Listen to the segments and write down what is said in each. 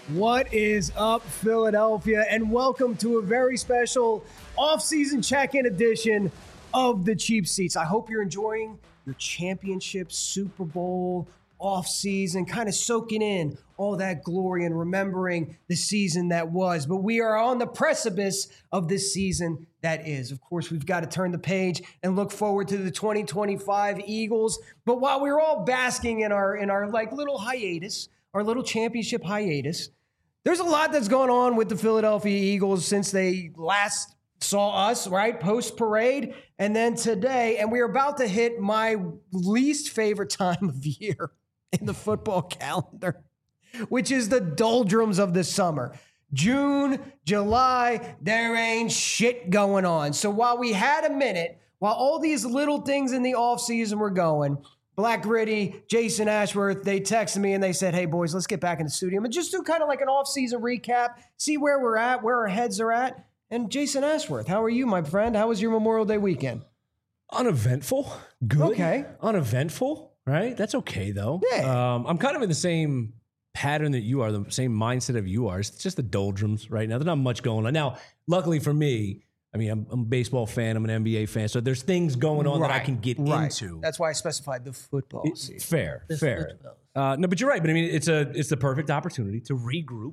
What is up, Philadelphia? And welcome to a very special off-season check-in edition of the Cheap Seats. I hope you're enjoying your championship, Super Bowl, off-season, kind of soaking in all that glory and remembering the season that was. But we are on the precipice of this season that is. Of course, we've got to turn the page and look forward to the 2025 Eagles. But while we're all basking in our like little hiatus, our little championship hiatus, there's a lot that's going on with the Philadelphia Eagles since they last saw us, right? Post-parade, and then today. And we're about to hit my least favorite time of year in the football calendar, which is the doldrums of the summer. June, July, there ain't shit going on. So while we had a minute, while all these little things in the offseason were going, Black Gritty, Jason Ashworth, they texted me and they said, hey, boys, let's get back in the studio and just do kind of like an off-season recap, see where we're at, where our heads are at. And Jason Ashworth, how are you, my friend? How was your Memorial Day weekend? Uneventful. Good. Okay. Uneventful, right? That's okay, though. Yeah. I'm kind of in the same pattern that you are, the same mindset of you are. It's just the doldrums right now. There's not much going on. Now, luckily for me, I mean, I'm a baseball fan. I'm an NBA fan. So there's things going on that I can get into. That's why I specified the football season. Fair. No, but you're right. But I mean, it's the perfect opportunity to regroup,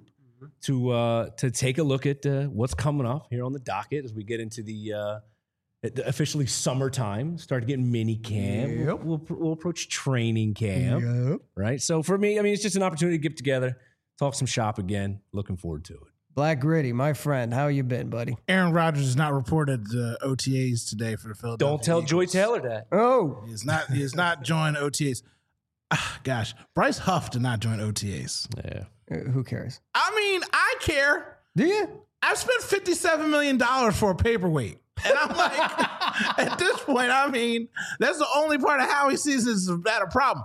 to take a look at what's coming up here on the docket as we get into the officially summertime, start getting mini camp. Yep. We'll approach training camp, right? So for me, I mean, it's just an opportunity to get together, talk some shop again. Looking forward to it. Black Gritty, my friend, how you been, buddy? Aaron Rodgers has not reported OTAs today for the Philadelphia Don't tell Eagles. Joy Taylor that. Oh. He has not joined OTAs. Gosh, Bryce Huff did not join OTAs. Yeah. Who cares? I mean, I care. Do you? I've spent $57 million for a paperweight. And I'm like, at this point, I mean, that's the only part of how he sees this is not a problem.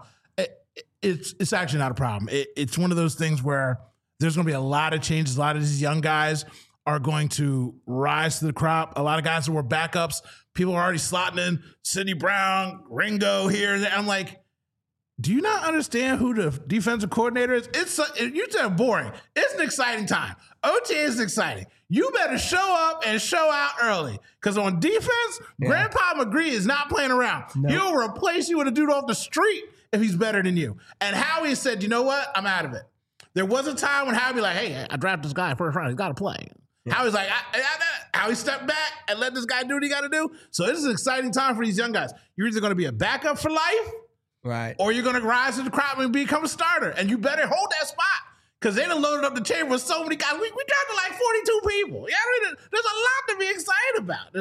It's actually not a problem. It's one of those things where there's going to be a lot of changes. A lot of these young guys are going to rise to the crop. A lot of guys who were backups, people are already slotting in Sidney Brown, Ringo here and there. I'm like, do you not understand who the defensive coordinator is? You said boring. It's an exciting time. OTA is exciting. You better show up and show out early. Because on defense, Grandpa McGree is not playing around. Nope. He'll replace you with a dude off the street if he's better than you. And Howie said, you know what? I'm out of it. There was a time when Howie be like, hey, I drafted this guy first round. He's got to play. Yeah. Howie's like, Howie stepped back and let this guy do what he got to do. So this is an exciting time for these young guys. You're either going to be a backup for life, right, or you're going to rise to the crop and become a starter. And you better hold that spot because they done loaded up the table with so many guys. We drafted like 42 people. Yeah, I mean, there's a lot to be excited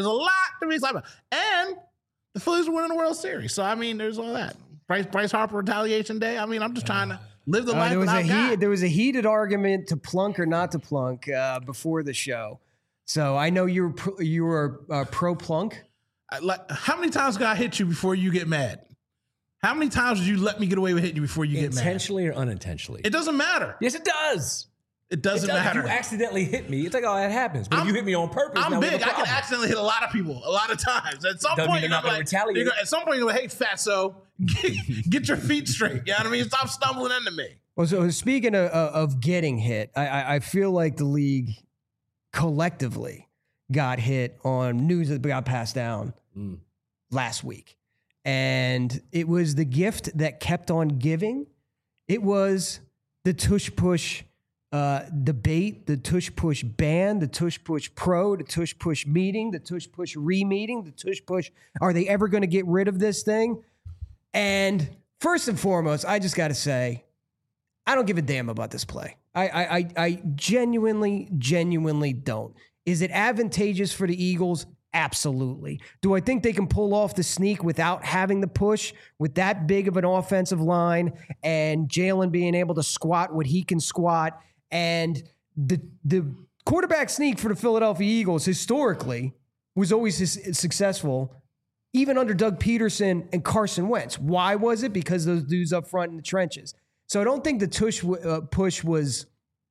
about. And the Phillies are winning the World Series. So, I mean, there's all that. Bryce Harper retaliation day. I mean, I'm just trying to live the life there was a heated argument to plunk or not to plunk before the show. So I know you were pro plunk. How many times can I hit you before you get mad? How many times did you let me get away with hitting you before you get mad? Intentionally or unintentionally? It doesn't matter. Yes, it does. It doesn't matter. If you accidentally hit me, it's like, oh, that happens. But if you hit me on purpose, I'm big. I can accidentally hit a lot of people a lot of times. At some point, you're not going to retaliate. At some point, you're going to, hey, fatso, get your feet straight. You know what I mean? Stop stumbling into me. Well, so speaking of getting hit, I feel like the league collectively got hit on news that got passed down last week. And it was the gift that kept on giving. It was the tush push debate, the tush push ban, the tush push pro, the tush push meeting, the tush push re-meeting, the tush push, are they ever going to get rid of this thing? And first and foremost, I just got to say, I don't give a damn about this play. I genuinely don't. Is it advantageous for the Eagles? Absolutely. Do I think they can pull off the sneak without having the push with that big of an offensive line and Jalen being able to squat what he can squat? And the quarterback sneak for the Philadelphia Eagles historically was always successful, even under Doug Peterson and Carson Wentz. Why was it? Because those dudes up front in the trenches. So I don't think the push was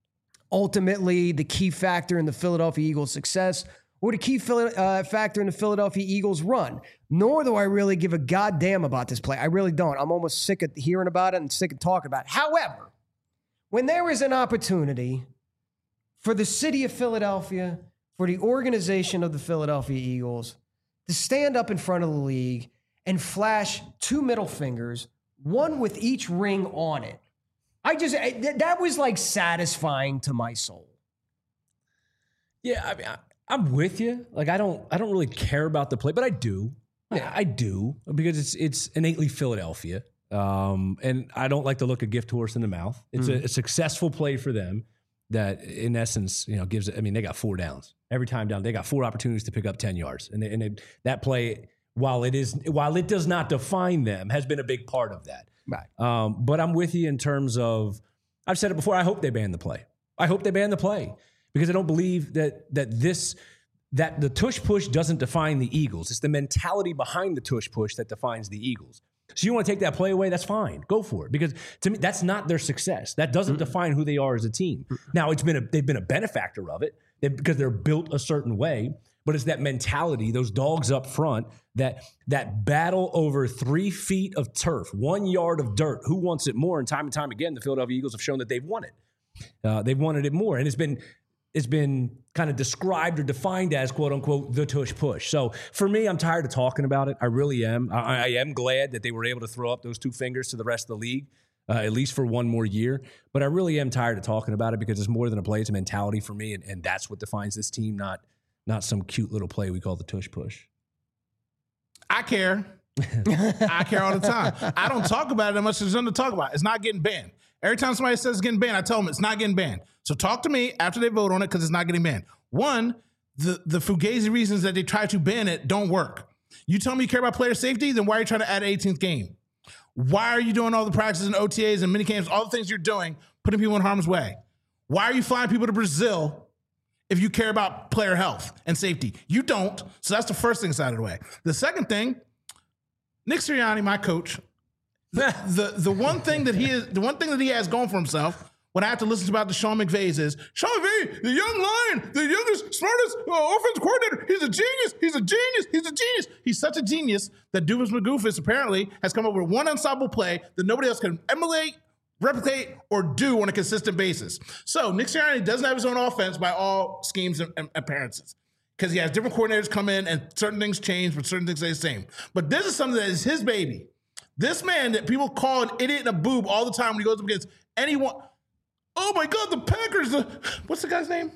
ultimately the key factor in the Philadelphia Eagles' success or the key factor in the Philadelphia Eagles' run. Nor do I really give a goddamn about this play. I really don't. I'm almost sick of hearing about it and sick of talking about it. However, when there is an opportunity for the city of Philadelphia, for the organization of the Philadelphia Eagles to stand up in front of the league and flash 2 middle fingers, one with each ring on it. That was like satisfying to my soul. Yeah, I mean, I'm with you. Like, I don't really care about the play, but I do. Yeah, I do, because it's innately Philadelphia. And I don't like to look a gift horse in the mouth. It's a successful play for them that, in essence, gives it. I mean, they got 4 downs every time down. They got 4 opportunities to pick up 10 yards, and that play, while it does not define them, has been a big part of that. Right. But I'm with you in terms of, I've said it before, I hope they ban the play. I hope they ban the play, because I don't believe that the tush push doesn't define the Eagles. It's the mentality behind the tush push that defines the Eagles. So you want to take that play away? That's fine. Go for it. Because to me, that's not their success. That doesn't define who they are as a team. Now, they've been a benefactor of it because they're built a certain way. But it's that mentality, those dogs up front, that battle over 3 feet of turf, 1 yard of dirt. Who wants it more? And time again, the Philadelphia Eagles have shown that they've won it. They've wanted it more. And it's been kind of described or defined as, quote unquote, the tush push. So for me, I'm tired of talking about it. I really am. I am glad that they were able to throw up those 2 fingers to the rest of the league, at least for 1 more year. But I really am tired of talking about it, because it's more than a play. It's a mentality for me. And that's what defines this team, not some cute little play we call the tush push. I care. I care all the time. I don't talk about it as much as there's nothing to talk about. It's not getting banned. Every time somebody says it's getting banned, I tell them it's not getting banned. So talk to me after they vote on it, because it's not getting banned. One, the fugazi reasons that they try to ban it don't work. You tell me you care about player safety, then why are you trying to add an 18th game? Why are you doing all the practices and OTAs and minicamps, all the things you're doing, putting people in harm's way? Why are you flying people to Brazil if you care about player health and safety? You don't. So that's the first thing out of the way. The second thing, Nick Sirianni, my coach, the one thing that he has going for himself, when I have to listen to about the Sean McVays, is Sean McVay, the young lion, the youngest, smartest offensive coordinator. He's a genius. He's a genius. He's a genius. He's such a genius that Doofus McGoofus apparently has come up with one unstoppable play that nobody else can emulate, replicate, or do on a consistent basis. So Nick Sirianni doesn't have his own offense by all schemes and appearances, because he has different coordinators come in and certain things change, but certain things stay the same. But this is something that is his baby. This man that people call an idiot and a boob all the time when he goes up against anyone. Oh my God, the Packers. What's the guy's name?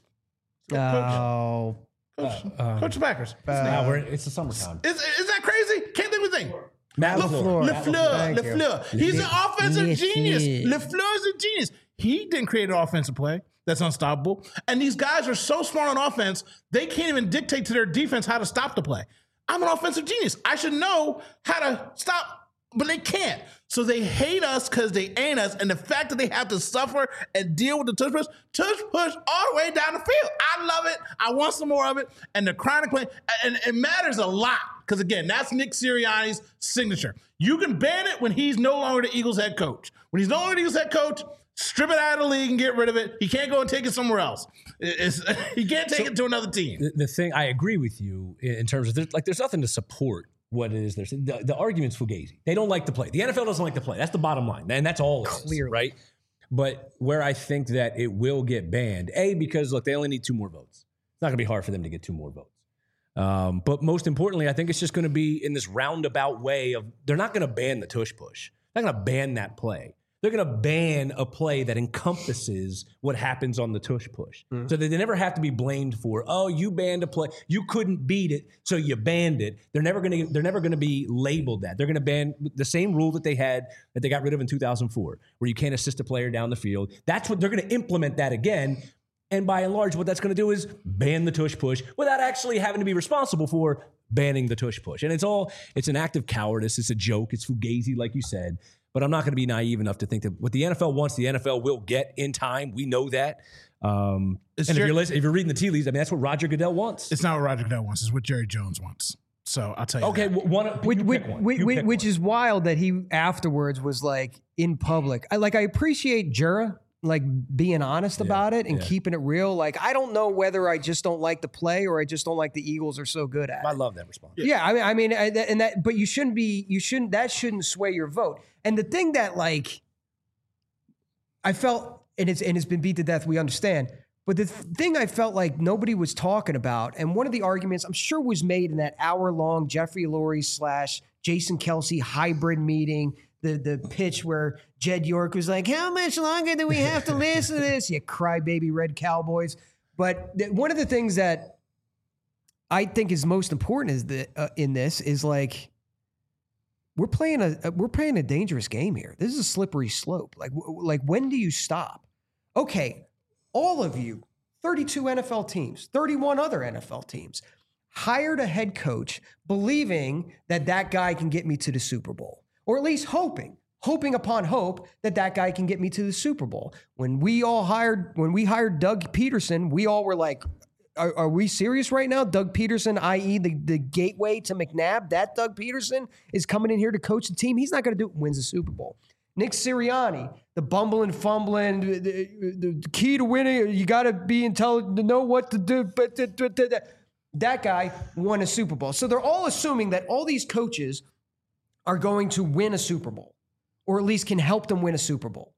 Oh. Coach of the Packers. It's the summertime. Is that crazy? Can't think of his name. Matt LaFleur. He's an offensive genius. LaFleur's a genius. He didn't create an offensive play that's unstoppable. And these guys are so smart on offense, they can't even dictate to their defense how to stop the play. I'm an offensive genius. I should know how to stop, but they can't. So they hate us because they ain't us. And the fact that they have to suffer and deal with the tush push all the way down the field. I love it. I want some more of it. And the chronic play, and it matters a lot. Because again, that's Nick Sirianni's signature. You can ban it when he's no longer the Eagles head coach. When he's no longer the Eagles head coach, strip it out of the league and get rid of it. He can't go and take it somewhere else. He can't take it to another team. The thing, I agree with you in terms of there's nothing to support what it is. The argument's fugazi. They don't like the play. The NFL doesn't like the play. That's the bottom line. And that's all it is, right? But where I think that it will get banned, because look, they only need 2 more votes. It's not going to be hard for them to get 2 more votes. But most importantly, I think it's just going to be in this roundabout way of, they're not going to ban the tush push. They're not going to ban that play. They're going to ban a play that encompasses what happens on the tush push. So that they never have to be blamed for, oh, you banned a play. You couldn't beat it, so you banned it. They're never going to be labeled that. They're going to ban the same rule that they got rid of in 2004, where you can't assist a player down the field. That's what they're going to implement that again. And by and large, what that's going to do is ban the tush push without actually having to be responsible for banning the tush push. And it's an act of cowardice. It's a joke. It's fugazi, like you said. But I'm not going to be naive enough to think that what the NFL wants, the NFL will get in time. We know that. And if you're reading the tea leaves, I mean, that's what Roger Goodell wants. It's not what Roger Goodell wants. It's what Jerry Jones wants. So I'll tell you. Okay, which is wild that he afterwards was like in public. I appreciate Jura like being honest about it and keeping it real. Like, I don't know whether I just don't like the play or I just don't like the Eagles are so good at it. I love that response. Yeah, I mean, but that shouldn't sway your vote. And the thing that, like, I felt, and it's been beat to death, we understand. But the thing I felt like nobody was talking about, and one of the arguments I'm sure was made in that hour-long Jeffrey Lurie / Jason Kelce hybrid meeting, the pitch where Jed York was like, how much longer do we have to listen to this? You crybaby Red Cowboys. But one of the things that I think is most important is that in this is like, we're playing a dangerous game here. This is a slippery slope. Like when do you stop? Okay, all of you, 32 NFL teams, 31 other NFL teams, hired a head coach believing that that guy can get me to the Super Bowl, or at least hoping upon hope that that guy can get me to the Super Bowl. When we hired Doug Peterson, we all were like, are we serious right now? Doug Peterson, i.e. the gateway to McNabb, that Doug Peterson is coming in here to coach the team. He's not going to do it, wins the Super Bowl. Nick Sirianni, the bumbling, fumbling, the key to winning, you got to be intelligent to know what to do. But that guy won a Super Bowl. So they're all assuming that all these coaches are going to win a Super Bowl, or at least can help them win a Super Bowl.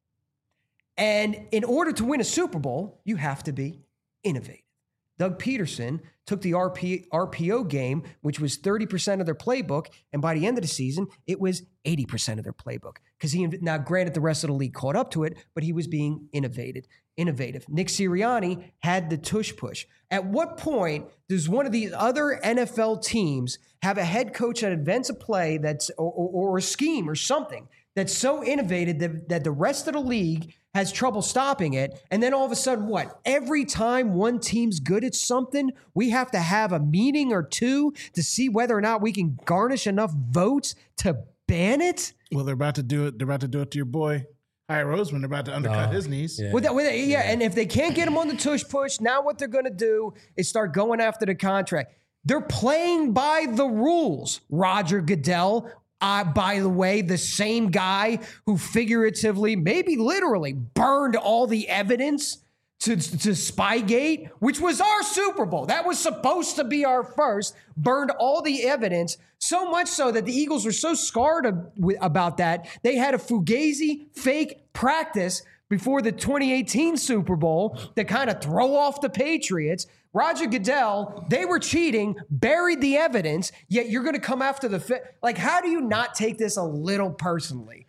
And in order to win a Super Bowl, you have to be innovative. Doug Peterson took the RPO game, which was 30% of their playbook, and by the end of the season, it was 80% of their playbook. Because now granted, the rest of the league caught up to it, but he was being innovative. Nick Sirianni had the tush push. At what point does one of these other NFL teams have a head coach that invents a play that's or a scheme or something that's so innovative that the rest of the league has trouble stopping it, and then all of a sudden, what? Every time one team's good at something, we have to have a meeting or two to see whether or not we can garnish enough votes to ban it? Well, they're about to do it. They're about to do it to your boy, High Roseman. They're about to undercut his knees. Yeah. And if they can't get him on the tush push, now what they're going to do is start going after the contract. They're playing by the rules, Roger Goodell. By the way, the same guy who figuratively, maybe literally, burned all the evidence to Spygate, which was our Super Bowl. That was supposed to be our first, burned all the evidence, so much so that the Eagles were so scarred about that, they had a Fugazi fake practice before the 2018 Super Bowl to kind of throw off the Patriots. Roger Goodell, they were cheating, buried the evidence, yet you're going to come after the like, how do you not take this a little personally?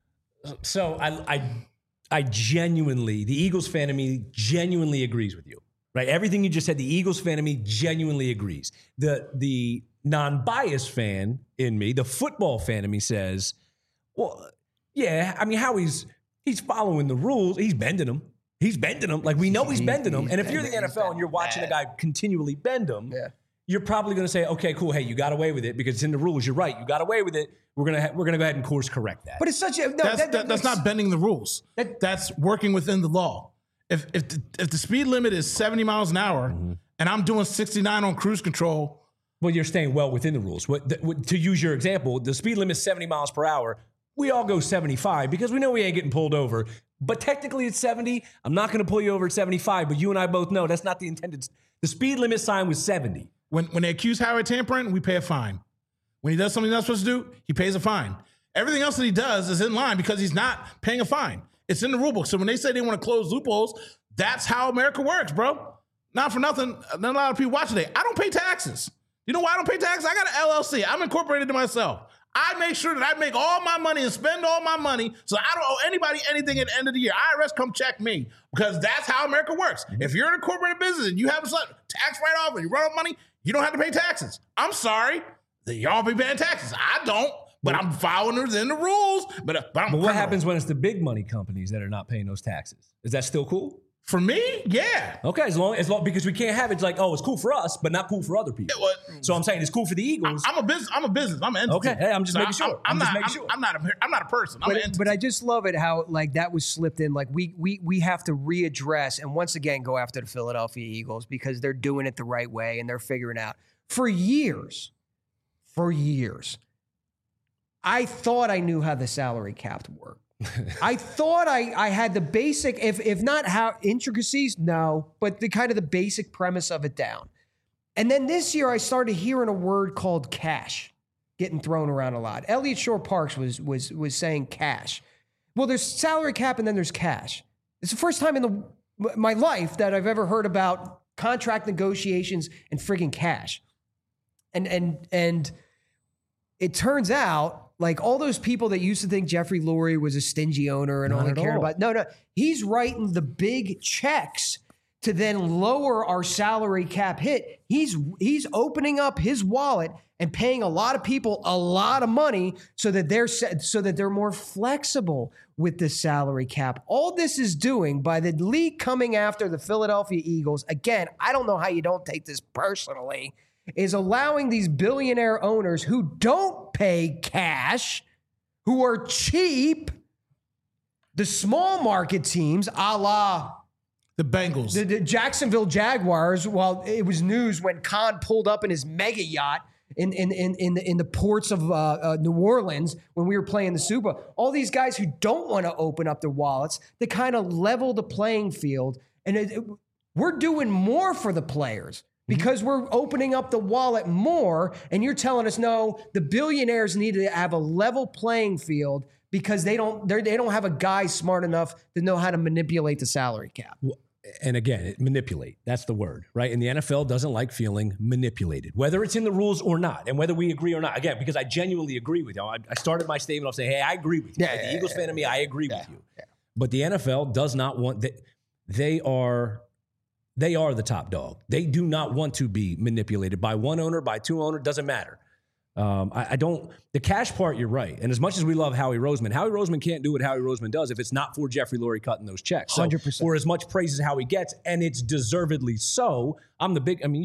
So I genuinely, the Eagles fan of me genuinely agrees with you, right? Everything you just said, the Eagles fan of me genuinely agrees. The non-biased fan in me, the football fan of me says, well, yeah, I mean, Howie's following the rules. He's bending them. Like, we know he's bending them. And if you're the NFL and you're watching a guy continually bend them, you're probably going to say, okay, cool. Hey, you got away with it because it's in the rules. You're right. You got away with it. We're going to go ahead and course correct that. But it's such a, no, that's not bending the rules. That's working within the law. If the speed limit is 70 miles an hour and I'm doing 69 on cruise control. Well, you're staying well within the rules. To use your example, the speed limit is 70 miles per hour. We all go 75 because we know we ain't getting pulled over. But technically it's 70. I'm not going to pull you over at 75, but you and I both know that's not the intended. The speed limit sign was 70. When they accuse Howie of tampering, we pay a fine. When he does something he's not supposed to do, he pays a fine. Everything else that he does is in line because he's not paying a fine. It's in the rule book. So when they say they want to close loopholes, that's how America works, bro. Not for nothing. Not a lot of people watch today. I don't pay taxes. You know why I don't pay taxes? I got an LLC. I'm incorporated to myself. I make sure that I make all my money and spend all my money so I don't owe anybody anything at the end of the year. IRS come check me because that's how America works. If you're in a corporate business and you have a tax write-off and you run out money, you don't have to pay taxes. I'm sorry. Y'all be paying taxes. I don't, but I'm following within the rules. But what happens when it's the big money companies that are not paying those taxes? Is that still cool? For me, yeah. Okay, as long because we can't have it like, oh, it's cool for us, but not cool for other people. So I'm saying it's cool for the Eagles. I'm a business. I'm an entity. Okay, hey, I'm just making sure. I'm not a person. I'm an entity. But I just love it how like that was slipped in. Like we have to readdress and once again go after the Philadelphia Eagles because they're doing it the right way and they're figuring out. For years, I thought I knew how the salary cap worked. I thought I had the basic, if not how intricacies, no, but the kind of the basic premise of it down. And then this year I started hearing a word called cash getting thrown around a lot. Elliot Shore Parks was saying cash. Well, there's salary cap and then there's cash. It's the first time in my life that I've ever heard about contract negotiations and friggin' cash. And it turns out, like, all those people that used to think Jeffrey Lurie was a stingy owner and only cared about, no, he's writing the big checks to then lower our salary cap hit. He's opening up his wallet and paying a lot of people a lot of money so that they're more flexible with the salary cap. All this is doing by the league coming after the Philadelphia Eagles. Again, I don't know how you don't take this personally, is allowing these billionaire owners who don't pay cash, who are cheap, the small market teams, a la the Bengals, the Jacksonville Jaguars. While it was news when Khan pulled up in his mega yacht in the ports of New Orleans when we were playing the Super Bowl. All these guys who don't want to open up their wallets, they kind of level the playing field, and we're doing more for the players because we're opening up the wallet more. And you're telling us, no, the billionaires need to have a level playing field because they don't have a guy smart enough to know how to manipulate the salary cap. And again, manipulate. That's the word, right? And the NFL doesn't like feeling manipulated, whether it's in the rules or not, and whether we agree or not. Again, because I genuinely agree with you. I started my statement off saying, hey, I agree with you. Yeah, the Eagles fan of me, I agree with you. Yeah. But the NFL does not want that. They are the top dog. They do not want to be manipulated by one owner, by two owners, doesn't matter. The cash part, you're right. And as much as we love Howie Roseman can't do what Howie Roseman does if it's not for Jeffrey Lurie cutting those checks. So 100%. for as much praise as Howie gets, and it's deservedly so, I'm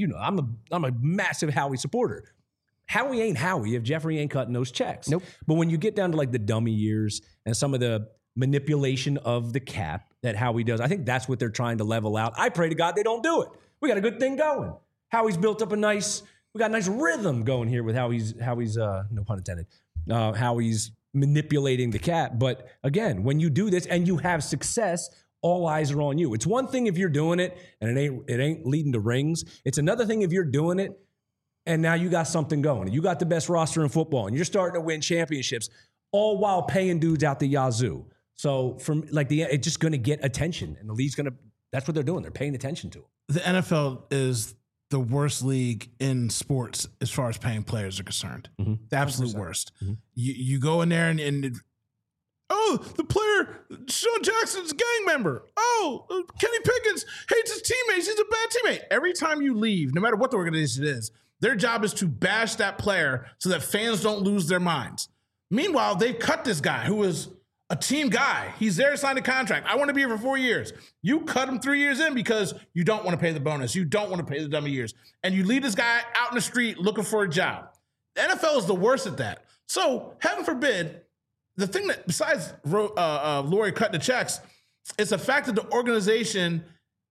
a massive Howie supporter. Howie ain't Howie if Jeffrey ain't cutting those checks. Nope. But when you get down to like the dummy years and some of the manipulation of the cap that Howie does, I think that's what they're trying to level out. I pray to God they don't do it. We got a good thing going. Howie's built up we got a nice rhythm going here with how he's no pun intended, how he's manipulating the cap. But again, when you do this and you have success, all eyes are on you. It's one thing if you're doing it and it ain't leading to rings. It's another thing if you're doing it and now you got something going. You got the best roster in football and you're starting to win championships, all while paying dudes out the yazoo. So it's just going to get attention, and the league's that's what they're doing. They're paying attention to it. The NFL is the worst league in sports as far as paying players are concerned. Mm-hmm. The absolute 100%. Worst. Mm-hmm. You go in there and the player, Sean Jackson's a gang member. Oh, Kenny Pickens hates his teammates. He's a bad teammate. Every time you leave, no matter what the organization is, their job is to bash that player so that fans don't lose their minds. Meanwhile, they've cut this guy who is a team guy. He's there to sign a contract. I want to be here for 4 years. You cut him 3 years in because you don't want to pay the bonus. You don't want to pay the dummy years. And you leave this guy out in the street looking for a job. The NFL is the worst at that. So heaven forbid, the thing that besides Lurie cutting the checks, it's the fact that the organization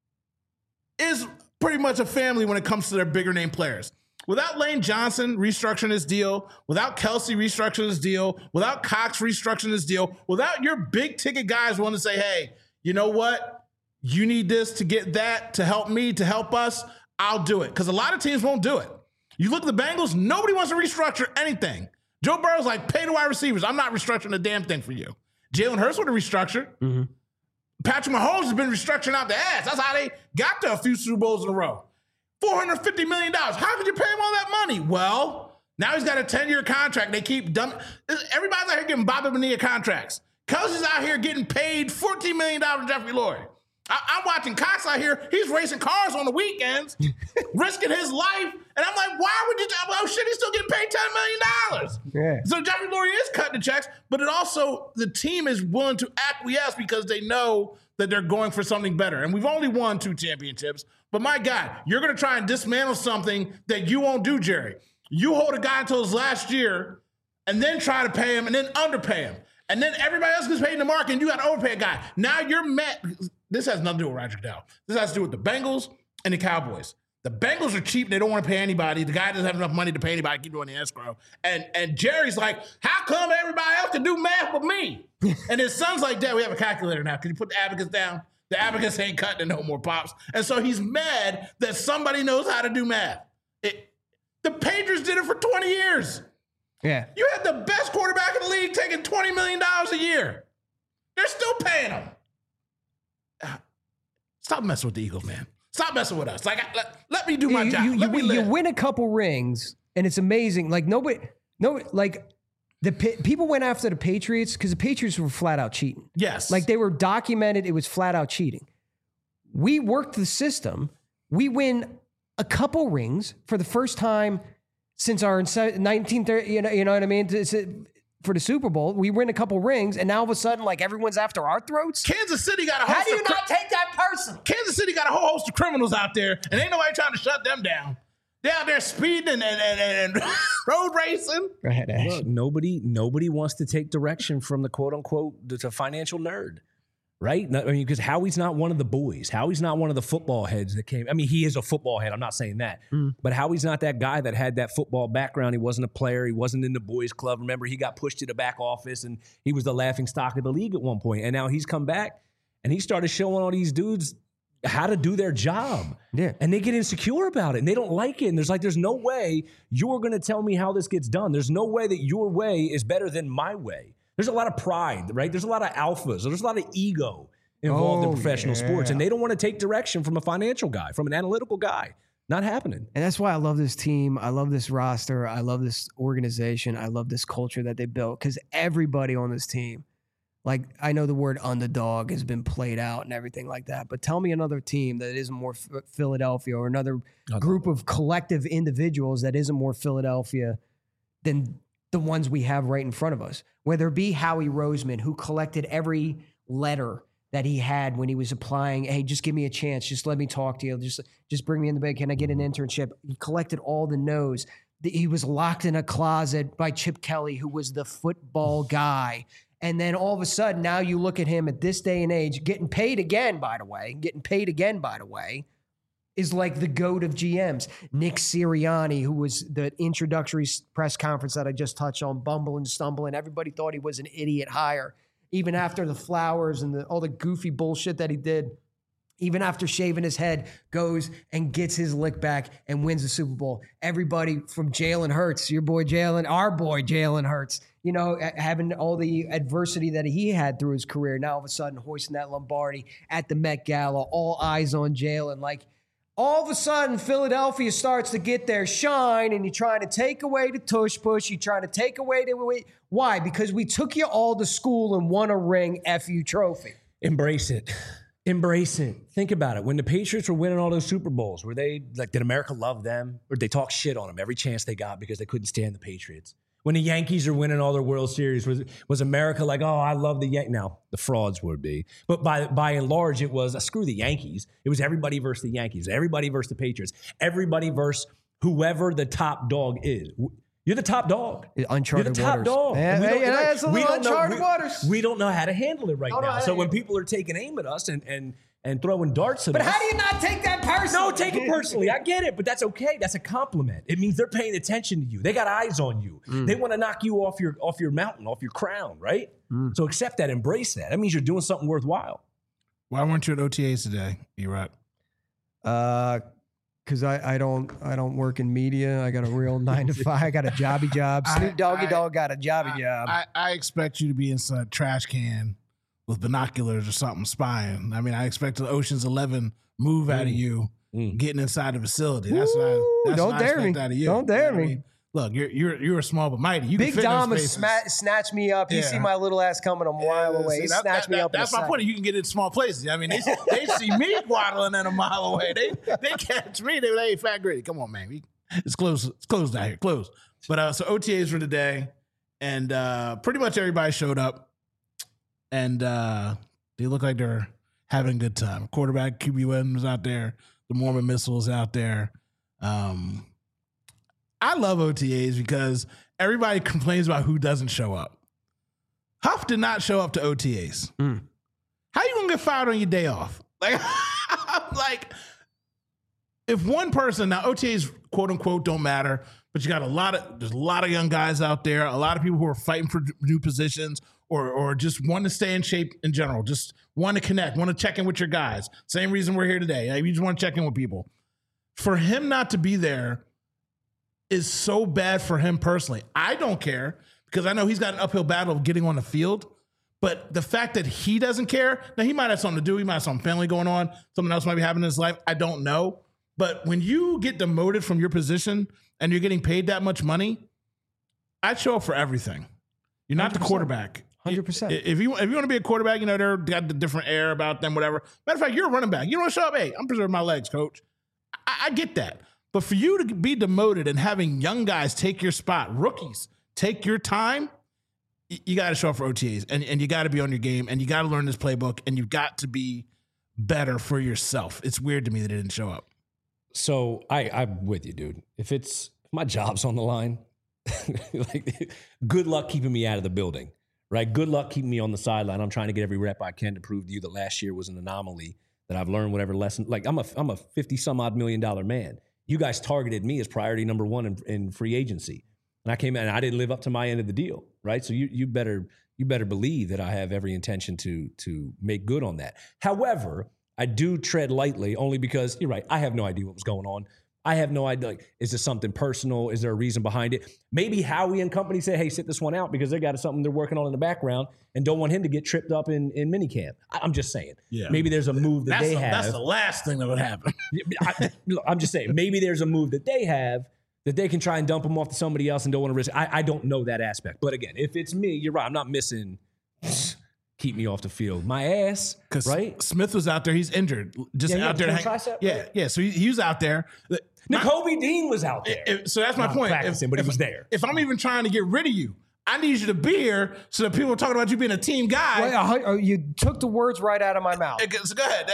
is pretty much a family when it comes to their bigger name players. Without Lane Johnson restructuring his deal, without Kelsey restructuring his deal, without Cox restructuring his deal, without your big ticket guys wanting to say, hey, you know what? You need this to get that, to help me, to help us, I'll do it. Because a lot of teams won't do it. You look at the Bengals, nobody wants to restructure anything. Joe Burrow's like, pay the wide receivers. I'm not restructuring a damn thing for you. Jalen Hurts would have restructured. Mm-hmm. Patrick Mahomes has been restructuring out the ass. That's how they got to a few Super Bowls in a row. $450 million. How could you pay him all that money? Well, now he's got a 10-year contract. They keep dumping. Everybody's out here getting Bobby Bonilla contracts. Kelsey's out here getting paid $14 million to Jeffrey Lurie. I'm watching Cox out here. He's racing cars on the weekends, risking his life. And I'm like, why would you? Oh, shit, he's still getting paid $10 million. Yeah. So Jeffrey Lurie is cutting the checks, but it also, the team is willing to acquiesce because they know that they're going for something better. And we've only won 2 championships. But my God, you're going to try and dismantle something that you won't do, Jerry. You hold a guy until his last year and then try to pay him and then underpay him. And then everybody else gets paid in the market and you got to overpay a guy. Now you're met. This has nothing to do with Roger Goodell. This has to do with the Bengals and the Cowboys. The Bengals are cheap. They don't want to pay anybody. The guy doesn't have enough money to pay anybody. Keep doing the escrow. And Jerry's like, how come everybody else can do math but me? And his son's like, Dad, we have a calculator now. Can you put the abacus down? The abacus ain't cutting it no more, Pops. And so he's mad that somebody knows how to do math. The Patriots did it for 20 years. Yeah. You had the best quarterback in the league taking $20 million a year. They're still paying him. Stop messing with the Eagles, man. Stop messing with us. Like, let me do my job. You win a couple rings, and it's amazing. Like people went after the Patriots because the Patriots were flat out cheating. Yes. Like they were documented. It was flat out cheating. We worked the system. We win a couple rings for the first time since our 1930. You know what I mean? For the Super Bowl, we win a couple rings, and now all of a sudden, like everyone's after our throats. Kansas City got a host. How do you not take that person? Kansas City got a whole host of criminals out there, and ain't nobody trying to shut them down. They're out there speeding and road racing. Go ahead, Ash. Look, nobody wants to take direction from the quote unquote the financial nerd. Right? I mean, because Howie's not one of the boys. Howie's not one of the football heads that came. I mean, he is a football head. I'm not saying that. But Howie's not that guy that had that football background. He wasn't a player. He wasn't in the boys club. Remember, he got pushed to the back office, and he was the laughing stock of the league at one point. And now he's come back, and he started showing all these dudes how to do their job. Yeah. And they get insecure about it, and they don't like it. And there's no way you're going to tell me how this gets done. There's no way that your way is better than my way. There's a lot of pride, right? There's a lot of alphas. There's a lot of ego involved in professional sports, and they don't want to take direction from a financial guy, from an analytical guy. Not happening. And that's why I love this team. I love this roster. I love this organization. I love this culture that they built because everybody on this team, like I know the word underdog has been played out and everything like that, but tell me another team that isn't more Philadelphia or another group of collective individuals that isn't more Philadelphia than the ones we have right in front of us. Whether it be Howie Roseman, who collected every letter that he had when he was applying. Hey, just give me a chance. Just let me talk to you. Just bring me in the bed. Can I get an internship? He collected all the no's. He was locked in a closet by Chip Kelly, who was the football guy. And then all of a sudden, now you look at him at this day and age, getting paid again, by the way, is like the GOAT of GMs. Nick Sirianni, who was the introductory press conference that I just touched on, bumbling, stumbling. Everybody thought he was an idiot hire. Even after the flowers and all the goofy bullshit that he did, even after shaving his head, goes and gets his lick back and wins the Super Bowl. Everybody from Jalen Hurts, your boy Jalen, our boy Jalen Hurts, you know, having all the adversity that he had through his career, now all of a sudden hoisting that Lombardi at the Met Gala, all eyes on Jalen. Like, all of a sudden, Philadelphia starts to get their shine, and you're trying to take away the tush push. You're trying to take away the... Why? Because we took you all to school and won a ring FU trophy. Embrace it. Embrace it. Think about it. When the Patriots were winning all those Super Bowls, were they like, did America love them? Or did they talk shit on them every chance they got because they couldn't stand the Patriots? When the Yankees are winning all their World Series, was America like, oh, I love the Yankees? Now, the frauds would be. But by and large, it was, screw the Yankees. It was everybody versus the Yankees. Everybody versus the Patriots. Everybody versus whoever the top dog is. You're the top dog. Uncharted waters. You're the top dog. It's a little uncharted waters. We don't know how to handle it right now. So when people are taking aim at us and throwing darts at us. But how do you not take that personally? No, take it personally. I get it, but that's okay. That's a compliment. It means they're paying attention to you. They got eyes on you. They want to knock you off your mountain, off your crown, right? So accept that, embrace that. That means you're doing something worthwhile. Why weren't you at OTAs today, E-Rock? Because I don't work in media. I got a real 9 to 5. I got a jobby job. Snoop Doggy Dogg got a jobby job. I expect you to be inside a trash can with binoculars or something spying. I mean, I expect the Ocean's 11 move out of you getting inside the facility. That's what I expect out of you. Don't dare me. I mean? Look, you're a small but mighty. You Big Dom has snatched me up. You see my little ass coming a mile away. He snatched me up. That's my point. You can get in small places. I mean, they see me waddling at a mile away. They catch me. They hey, Fat Gritty, come on, man. It's closed. It's closed out here. Closed. But so OTAs for today, and pretty much everybody showed up, and they look like they're having a good time. Quarterback QB1 was out there. The Mormon Missile is out there. I love OTAs because everybody complains about who doesn't show up. Huff did not show up to OTAs. How you gonna get fired on your day off? Like, if one person, now OTAs quote unquote don't matter, but you got there's a lot of young guys out there, a lot of people who are fighting for new positions or just want to stay in shape in general, just want to connect, want to check in with your guys. Same reason we're here today. You just want to check in with people. For him not to be there is so bad for him personally. I don't care because I know he's got an uphill battle of getting on the field, But the fact that he doesn't care, now he might have something to do. He might have some family going on. Something else might be happening in his life. I don't know. But when you get demoted from your position and you're getting paid that much money, I'd show up for everything. You're not 100%. The quarterback. 100%. If you want to be a quarterback, they're got the different air about them, whatever. Matter of fact, you're a running back. You don't show up, hey, I'm preserving my legs, coach. I get that. But for you to be demoted and having young guys take your spot, rookies take your time, you got to show up for OTAs and you got to be on your game and you got to learn this playbook and you've got to be better for yourself. It's weird to me that it didn't show up. So I'm with you, dude. If my job's on the line, like, good luck keeping me out of the building, right? Good luck keeping me on the sideline. I'm trying to get every rep I can to prove to you that last year was an anomaly, that I've learned whatever lesson. Like, I'm a $50-some-odd million man. You guys targeted me as priority number one in free agency. And I came in and I didn't live up to my end of the deal, right? So you better believe that I have every intention to make good on that. However, I do tread lightly only because, you're right, I have no idea what was going on. I have no idea, like, is this something personal? Is there a reason behind it? Maybe Howie and company say, hey, sit this one out because they got something they're working on in the background and don't want him to get tripped up in minicamp. I'm just saying. Yeah. Maybe there's a move that they have. That's the last thing that would happen. I'm just saying, maybe there's a move that they have that they can try and dump him off to somebody else and don't want to risk. I don't know that aspect. But again, if it's me, you're right. I'm not missing keep me off the field. My ass, right? Smith was out there. He's injured. Just out there. Yeah. So he was out there. Nakobe Dean was out there. So that's my point. But he was there. If I'm even trying to get rid of you, I need you to be here so that people are talking about you being a team guy. Well, you took the words right out of my mouth. So go ahead.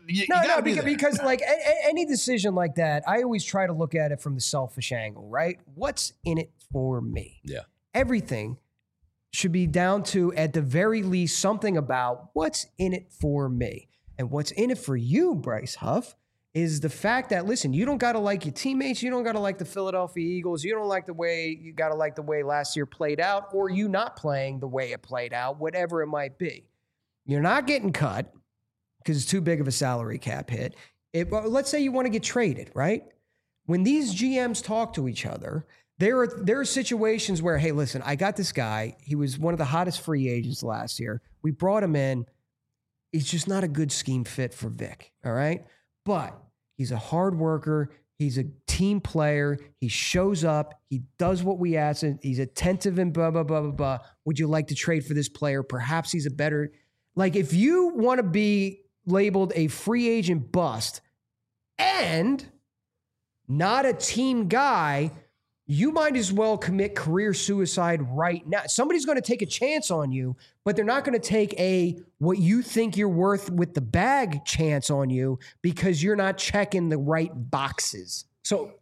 Because like any decision like that, I always try to look at it from the selfish angle, right? What's in it for me? Yeah. Everything should be down to, at the very least, something about what's in it for me. And what's in it for you, Bryce Huff, is the fact that, listen, you don't got to like your teammates. You don't got to like the Philadelphia Eagles. You don't like the way, you got to like the way last year played out, or you not playing the way it played out, whatever it might be. You're not getting cut because it's too big of a salary cap hit. Let's say you want to get traded, right? When these GMs talk to each other, there are situations where, hey, listen, I got this guy. He was one of the hottest free agents last year. We brought him in. He's just not a good scheme fit for Vic, all right? But he's a hard worker. He's a team player. He shows up. He does what we ask. He's attentive and blah, blah, blah, blah, blah. Would you like to trade for this player? Perhaps he's a better... Like, if you want to be labeled a free agent bust and not a team guy, you might as well commit career suicide right now. Somebody's going to take a chance on you, but they're not going to take what you think you're worth with the bag chance on you because you're not checking the right boxes. So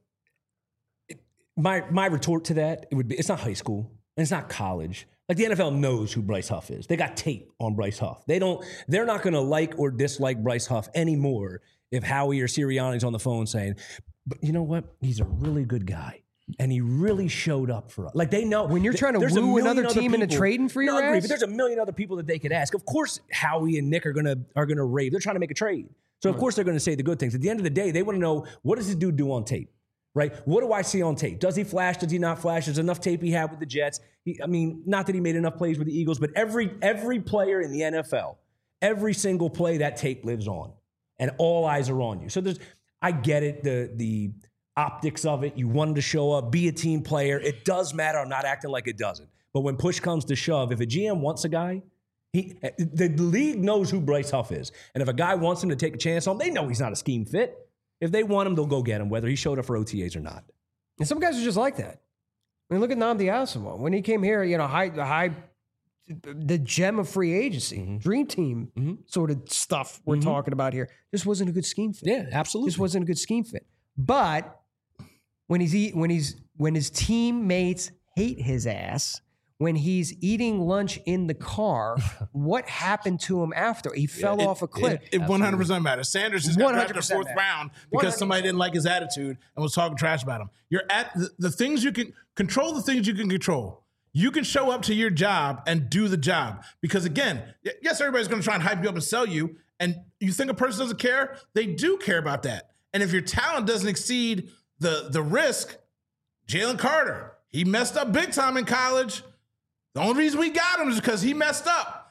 my retort to that, it would be, it's not high school and it's not college. Like, the NFL knows who Bryce Huff is. They got tape on Bryce Huff. They're not going to like or dislike Bryce Huff anymore if Howie or Sirianni's on the phone saying, but you know what? He's a really good guy. And he really showed up for us. Like, they know. When you're trying to woo another team into trading for your ass? But there's a million other people that they could ask. Of course, Howie and Nick are gonna rave. They're trying to make a trade. So, of course, they're going to say the good things. At the end of the day, they want to know, what does this dude do on tape? Right? What do I see on tape? Does he flash? Does he not flash? There's enough tape he had with the Jets. Not that he made enough plays with the Eagles, but every player in the NFL, every single play, that tape lives on. And all eyes are on you. So I get it, the optics of it. You want him to show up, be a team player. It does matter. I'm not acting like it doesn't. But when push comes to shove, if a GM wants a guy, the league knows who Bryce Huff is. And if a guy wants him to take a chance on him, they know he's not a scheme fit. If they want him, they'll go get him, whether he showed up for OTAs or not. And some guys are just like that. I mean, look at Nnamdi Asomugha. When he came here, the gem of free agency, dream team sort of stuff we're talking about here, just wasn't a good scheme fit. Yeah, absolutely. Just wasn't a good scheme fit. But when his teammates hate his ass, when he's eating lunch in the car, what happened to him after? He fell off a cliff. It 100% matters. Sanders just got drafted in the fourth round because somebody didn't like his attitude and was talking trash about him. You're at the things you can control, the things you can control. You can show up to your job and do the job. Because again, yes, everybody's going to try and hype you up and sell you. And you think a person doesn't care? They do care about that. And if your talent doesn't exceed the risk, Jalen Carter, he messed up big time in college. The only reason we got him is because he messed up.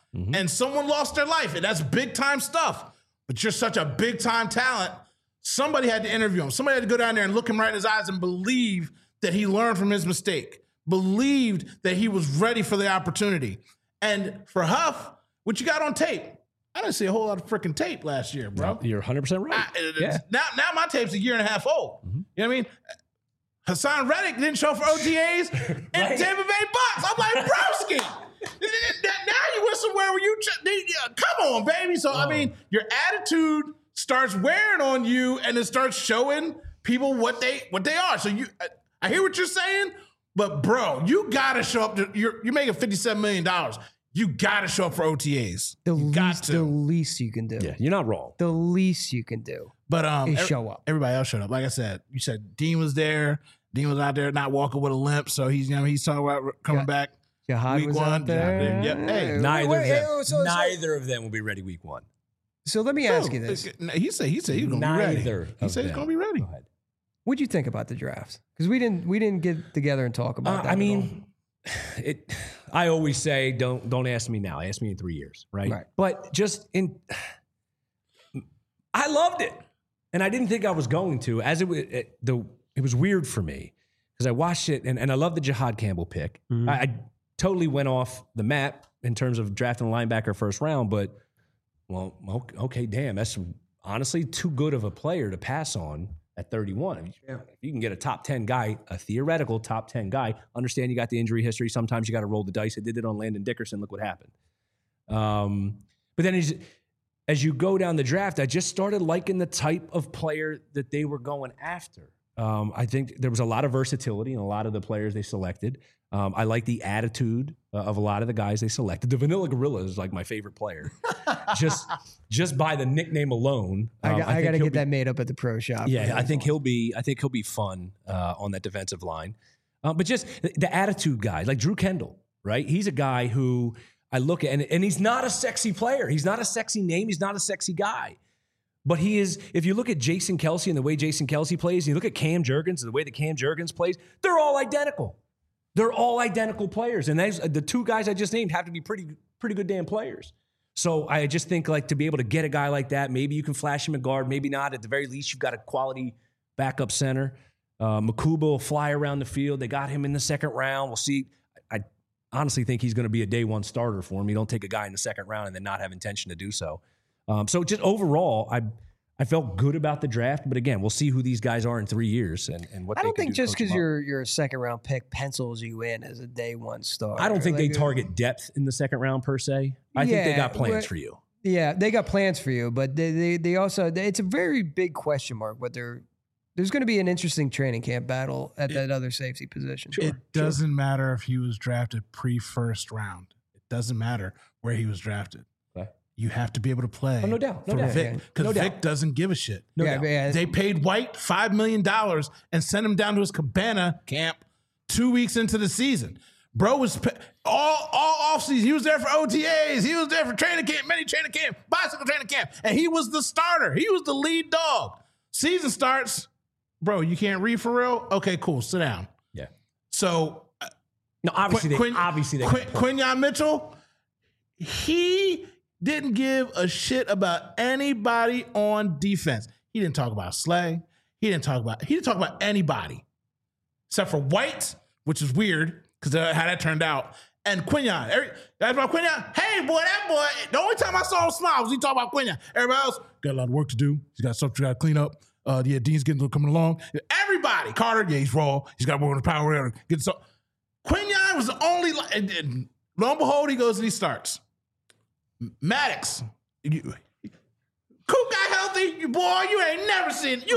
and someone lost their life, and that's big time stuff. But you're such a big time talent. Somebody had to interview him. Somebody had to go down there and look him right in his eyes and believe that he learned from his mistake, believed that he was ready for the opportunity. And for Huff, what you got on tape? I didn't see a whole lot of freaking tape last year, bro. You're 100% right. Now my tape's a year and a half old. You know what I mean? Hassan Reddick didn't show up for OTAs in Tampa Bay Bucks. I'm like, broski. Now you went somewhere where come on, baby. So, I mean, your attitude starts wearing on you and it starts showing people what they are. So I hear what you're saying, but bro, you got to show up. You're making $57 million. You got to show up for OTAs. The least you can do. Yeah, you're not wrong. The least you can do is show up. Everybody else showed up. Like I said, you said Dean was there. Dean was out there not walking with a limp, so he's talking about coming back. Jahad was out there. Yep. Hey, neither of them will be ready week 1. So let me ask you this. He said he's going to be ready. He said he's going to be ready. What'd you think about the draft? Because we didn't get together and talk about that. I mean, I always say don't ask me now. Ask me in 3 years, right? But I loved it, and I didn't think I was going to. As it was weird for me because I watched it, and I love the Jahad Campbell pick. Mm-hmm. I totally went off the map in terms of drafting a linebacker first round, but okay, damn, that's honestly too good of a player to pass on at 31. If you can get a top 10 guy, a theoretical top 10 guy, understand you got the injury history. Sometimes you got to roll the dice. I did it on Landon Dickerson. Look what happened. But then as you go down the draft, I just started liking the type of player that they were going after. I think there was a lot of versatility in a lot of the players they selected. I like the attitude of a lot of the guys they selected. The Vanilla Gorilla is like my favorite player, just by the nickname alone. I got to get that made up at the pro shop. Yeah, I think he'll be fun on that defensive line. But just the attitude guys, like Drew Kendall, right? He's a guy who I look at, and he's not a sexy player. He's not a sexy name. He's not a sexy guy. But he is, if you look at Jason Kelce and the way Jason Kelce plays, and you look at Cam Jurgens and the way that Cam Jurgens plays, they're all identical. They're all identical players. And the two guys I just named have to be pretty good damn players. So I just think like to be able to get a guy like that, maybe you can flash him a guard, maybe not. At the very least, you've got a quality backup center. Makuba will fly around the field. They got him in the second round. We'll see. I honestly think he's going to be a day one starter for him. You don't take a guy in the second round and then not have intention to do so. So just overall, I felt good about the draft, but again, we'll see who these guys are in 3 years and what. I don't think just because you're a second round pick pencils you in as a day one starter. I don't think they target depth in the second round per se. I think they got plans for you. Yeah, they got plans for you, but they also it's a very big question mark. There's going to be an interesting training camp battle at that other safety position. It doesn't matter if he was drafted pre-first round. It doesn't matter where he was drafted. You have to be able to play. Oh, no doubt. No doubt. Because Vic doesn't give a shit. No doubt. They paid White $5 million and sent him down to his cabana camp 2 weeks into the season. Bro was all offseason. He was there for OTAs. He was there for training camp, mini training camp, bicycle training camp. And he was the starter. He was the lead dog. Season starts. Bro, you can't read for real? Okay, cool. Sit down. Yeah. So. No, obviously they Quinyon Mitchell, he didn't give a shit about anybody on defense. He didn't talk about Slay. He didn't talk about anybody except for White, which is weird because how that turned out. And Quinyon. That's about Quinyon. Hey, boy, that boy. The only time I saw him smile was he talking about Quinyon. Everybody else got a lot of work to do. He's got stuff to got to clean up. Dean's coming along. Everybody. Carter, he's raw. He's got more on the power. Quinyon was the only. And lo and behold, he goes and he starts. Maddox, Coop got healthy. You ain't never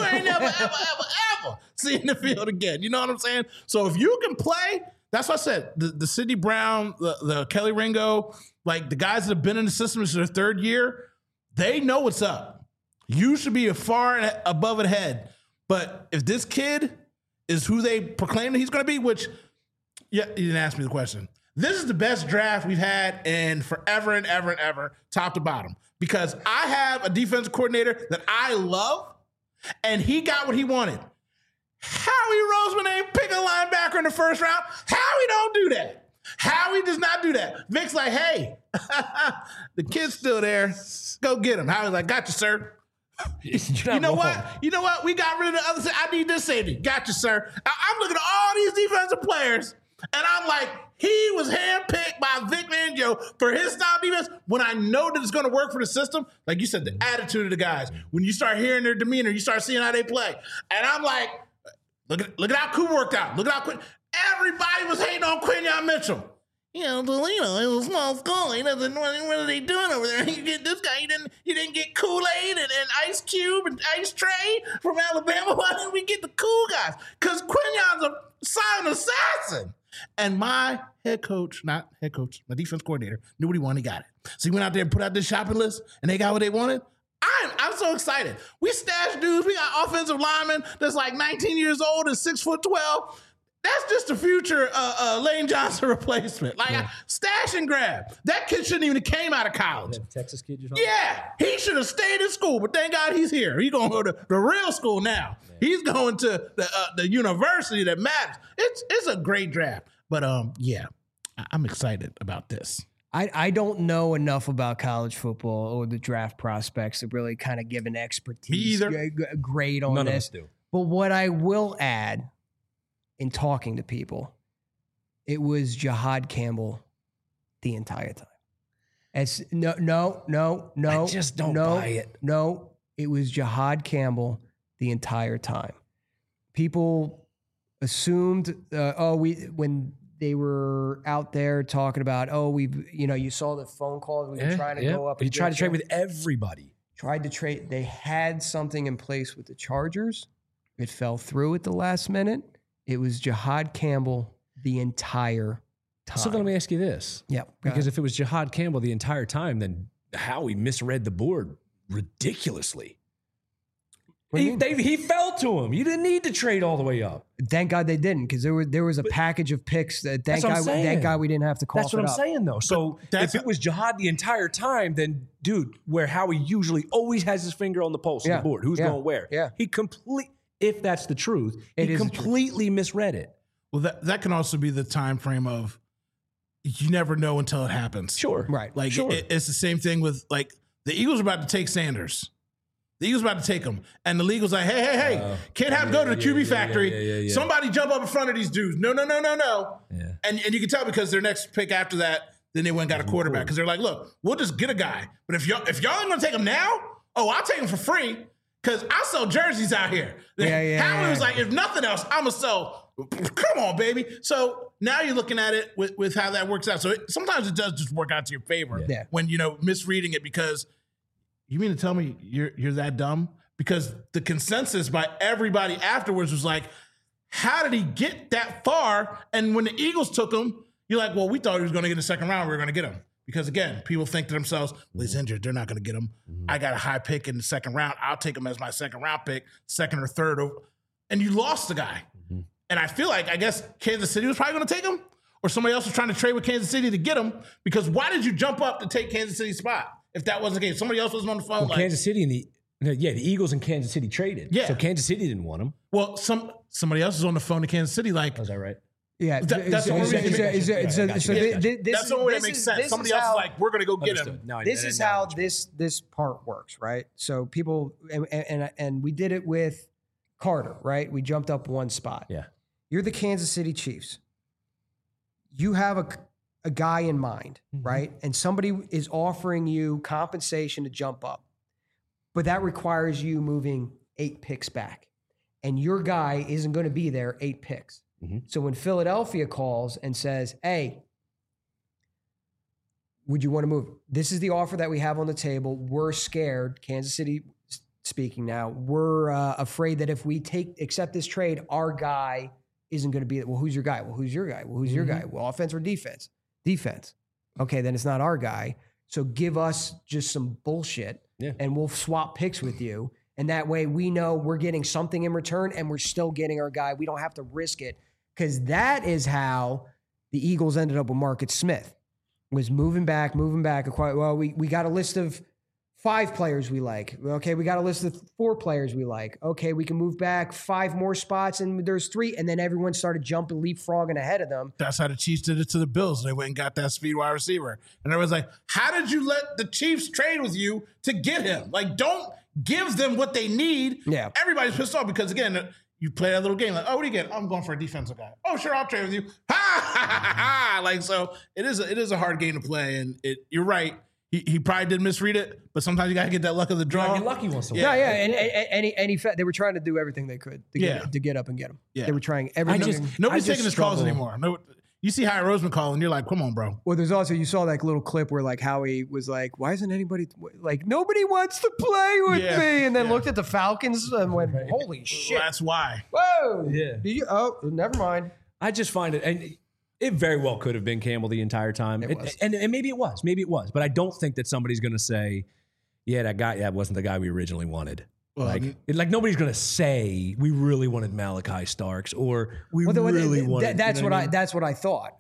ever seen the field again. You know what I'm saying? So if you can play, that's what I said. The Sidney Brown, the Kelly Ringo, like the guys that have been in the system this is their third year, they know what's up. You should be far above it head. But if this kid is who they proclaim that he's going to be, which, yeah, you didn't ask me the question. This is the best draft we've had in forever and ever and ever, top to bottom. Because I have a defensive coordinator that I love, and he got what he wanted. Howie Roseman ain't pick a linebacker in the first round. Howie don't do that. Howie does not do that. Vic's like, hey, the kid's still there. Go get him. Howie's like, gotcha, sir. You know what? You know what? We got rid of the other side. I need this safety. Gotcha, sir. I'm looking at all these defensive players, and I'm like, he was handpicked by Vic Fangio for his style defense when I know that it's going to work for the system. Like you said, the attitude of the guys. When you start hearing their demeanor, you start seeing how they play. And I'm like, look at how Cooper worked out. Look at how Quinn. Everybody was hating on Quinyon Mitchell. You know, Delino, it was a small school. He doesn't know what are they doing over there. You get this guy. You didn't get Kool-Aid and Ice Cube and Ice Tray from Alabama. Why didn't we get the cool guys? Because Quinyon's a silent assassin. And my my defense coordinator, knew what he wanted. He got it. So he went out there and put out this shopping list, and they got what they wanted. I'm so excited. We stashed dudes. We got offensive linemen that's like 19 years old and 6'12". That's just a future Lane Johnson replacement. Like, stash and grab. That kid shouldn't even have came out of college. That Texas kid you're talking Yeah, he should have stayed in school, but thank God he's here. He's going to go to the real school now. Man. He's going to the university that matters. It's a great draft. But, yeah, I'm excited about this. I don't know enough about college football or the draft prospects to really kind of give an expertise grade on None this. of us do. But what I will add in talking to people, it was Jihad Campbell the entire time. It's no. I just don't buy it. No, it was Jihad Campbell the entire time. People assumed, when they were out there talking about, you saw the phone calls. We were trying to go up. He tried to trade with everybody. Tried to trade. They had something in place with the Chargers. It fell through at the last minute. It was Jihad Campbell the entire time. So then let me ask you this. Yeah. Because if it was Jihad Campbell the entire time, then Howie misread the board ridiculously. He fell to him. You didn't need to trade all the way up. Thank God they didn't, because there was a package of picks that thank God we didn't have to call. That's what I'm saying, though. So if it was Jihad the entire time, then dude, where Howie usually always has his finger on the pulse of the board, who's going where? Yeah. If that's the truth, he completely misread it. Well, that can also be the time frame of you never know until it happens. Sure. Right. Like it's the same thing with like the Eagles are about to take Sanders. The Eagles about to take him. And the league was like, hey, can't have him go to the QB factory. Yeah. Somebody jump up in front of these dudes. No. Yeah. And you can tell because their next pick after that, then they went and got a quarterback. Because they're like, look, we'll just get a guy. But if y'all ain't going to take him now, I'll take him for free. Because I sell jerseys out here. Howie was like, if nothing else, I'm going to sell. Come on, baby. So now you're looking at it with how that works out. So sometimes it does just work out to your favor when, misreading it, because you mean to tell me you're that dumb? Because the consensus by everybody afterwards was like, how did he get that far? And when the Eagles took him, you're like, well, we thought he was going to get in the second round. We were going to get him. Because, again, people think to themselves, well, he's injured. They're not going to get him. Mm-hmm. I got a high pick in the second round. I'll take him as my second round pick, second or third. And you lost the guy. Mm-hmm. And I feel like, I guess, Kansas City was probably going to take him, or somebody else was trying to trade with Kansas City to get him. Because why did you jump up to take Kansas City's spot if that wasn't the case? Somebody else was on the phone. Well, Kansas City the Eagles and Kansas City traded. Yeah. So Kansas City didn't want him. Well, somebody else was on the phone to Kansas City like. Was that right? Yeah, that's the only way that makes sense. Somebody else is like, we're going to go get him. This is how this part works, right? So people, and we did it with Carter, right? We jumped up one spot. Yeah. You're the Kansas City Chiefs. You have a guy in mind, right? And somebody is offering you compensation to jump up. But that requires you moving 8 picks back. And your guy isn't going to be there 8 picks. Mm-hmm. So when Philadelphia calls and says, hey, would you want to move? This is the offer that we have on the table. We're scared, Kansas City speaking now, we're afraid that if we accept this trade, our guy isn't going to be, well, who's your guy? Well, who's your guy? Well, who's your guy? Well, offense or defense? Defense. Okay, then it's not our guy. So give us just some bullshit and we'll swap picks with you. And that way we know we're getting something in return and we're still getting our guy. We don't have to risk it. Because that is how the Eagles ended up with Marcus Smith, was moving back. Well, we got a list of 5 players we like. Okay, we got a list of 4 players we like. Okay, we can move back 5 more spots, and there's 3, and then everyone started jumping, leapfrogging ahead of them. That's how the Chiefs did it to the Bills. They went and got that speed wide receiver. And everyone's like, how did you let the Chiefs trade with you to get him? Like, don't give them what they need. Yeah. Everybody's pissed off because, again, you play that little game like, oh, what do you get? I'm going for a defensive guy. Oh, sure, I'll trade with you. Ha, ha, ha, ha. Like, so it is a hard game to play. And you're right. He probably did misread it, but sometimes you got to get that luck of the draw. Get lucky once in a Yeah, while. and they were trying to do everything they could to get up and get him. Yeah. They were trying everything. Nobody's taking his calls struggle. anymore. No, you see Howie Roseman calling, you're like, come on, bro. Well, there's also, you saw that little clip where like Howie was like, why isn't anybody, like, nobody wants to play with me, and then looked at the Falcons and went, holy shit. That's why. Whoa. Yeah. Oh, never mind. I just find it, and it very well could have been Campbell the entire time. And maybe it was. But I don't think that somebody's going to say, yeah, that wasn't the guy we originally wanted. Well, Like nobody's going to say we really wanted Malachi Starks or we really wanted. That's you know what that's what I thought.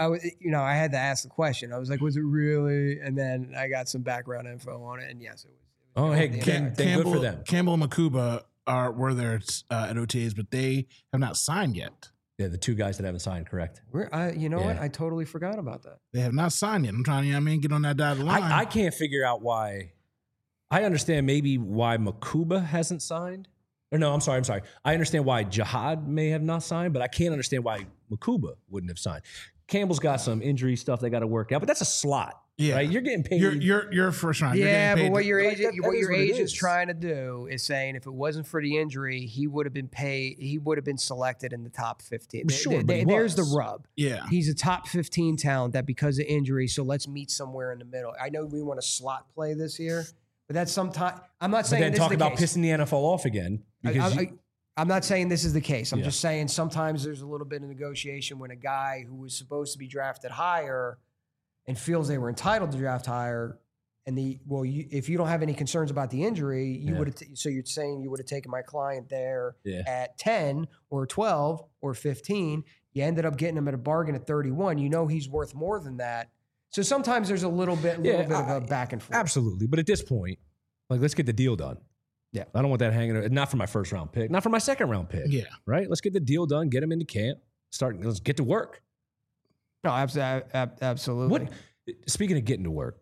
I had to ask the question. I was like, was it really? And then I got some background info on it, and yes, it was. Oh, hey, Yeah. good for them. Campbell and Makuba were there at OTAs, but they have not signed yet. Yeah, the 2 guys that haven't signed, correct. What? I totally forgot about that. They have not signed yet. I'm trying to, get on that dotted line. I can't figure out why. I understand maybe why Makuba hasn't signed. Or no, I'm sorry. I understand why Jihad may have not signed, but I can't understand why Makuba wouldn't have signed. Campbell's got some injury stuff they got to work out, but that's a slot. Yeah. Right? You're getting paid. You're first round. You're Yeah, getting but what paid your Like, agent, that what is your what it agent's is. trying to do is saying if it wasn't for the injury, he would have been paid. He would have been selected in the top 15. Sure, but he There's the was. rub. Yeah. He's a top 15 talent that because of injury. So let's meet somewhere in the middle. I know we want to slot play this year, but that's sometime. I'm not But saying then this talk is the about case. pissing the NFL off again. Because I'm not saying this is the case. I'm Yeah. just saying sometimes there's a little bit of negotiation when a guy who was supposed to be drafted higher and feels they were entitled to draft higher. And if you don't have any concerns about the injury, you would have. So you're saying you would have taken my client there at 10 or 12 or 15. You ended up getting him at a bargain at 31. You know he's worth more than that. So sometimes there's a little bit of a back and forth. absolutely. But at this point, like, let's get the deal done. Yeah. I don't want that hanging. Not for my first round pick. Not for my second round pick. Yeah. Right. Let's get the deal done. Get him into camp. Let's get to work. No, absolutely. Speaking of getting to work,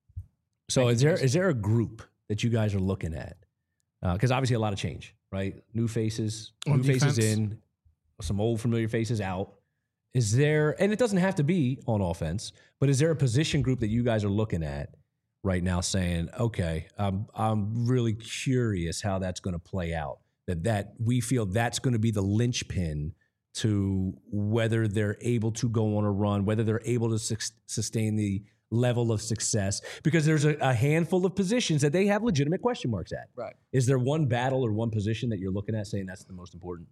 so is there a group that you guys are looking at? Because obviously a lot of change, right? New faces, On faces defense? in, some old familiar faces out. Is there, and it doesn't have to be on offense, but is there a position group that you guys are looking at right now saying, okay, I'm really curious how that's going to play out, that we feel that's going to be the linchpin to whether they're able to go on a run, whether they're able to sustain the level of success, because there's a handful of positions that they have legitimate question marks at. Right. Is there one battle or one position that you're looking at saying that's the most important?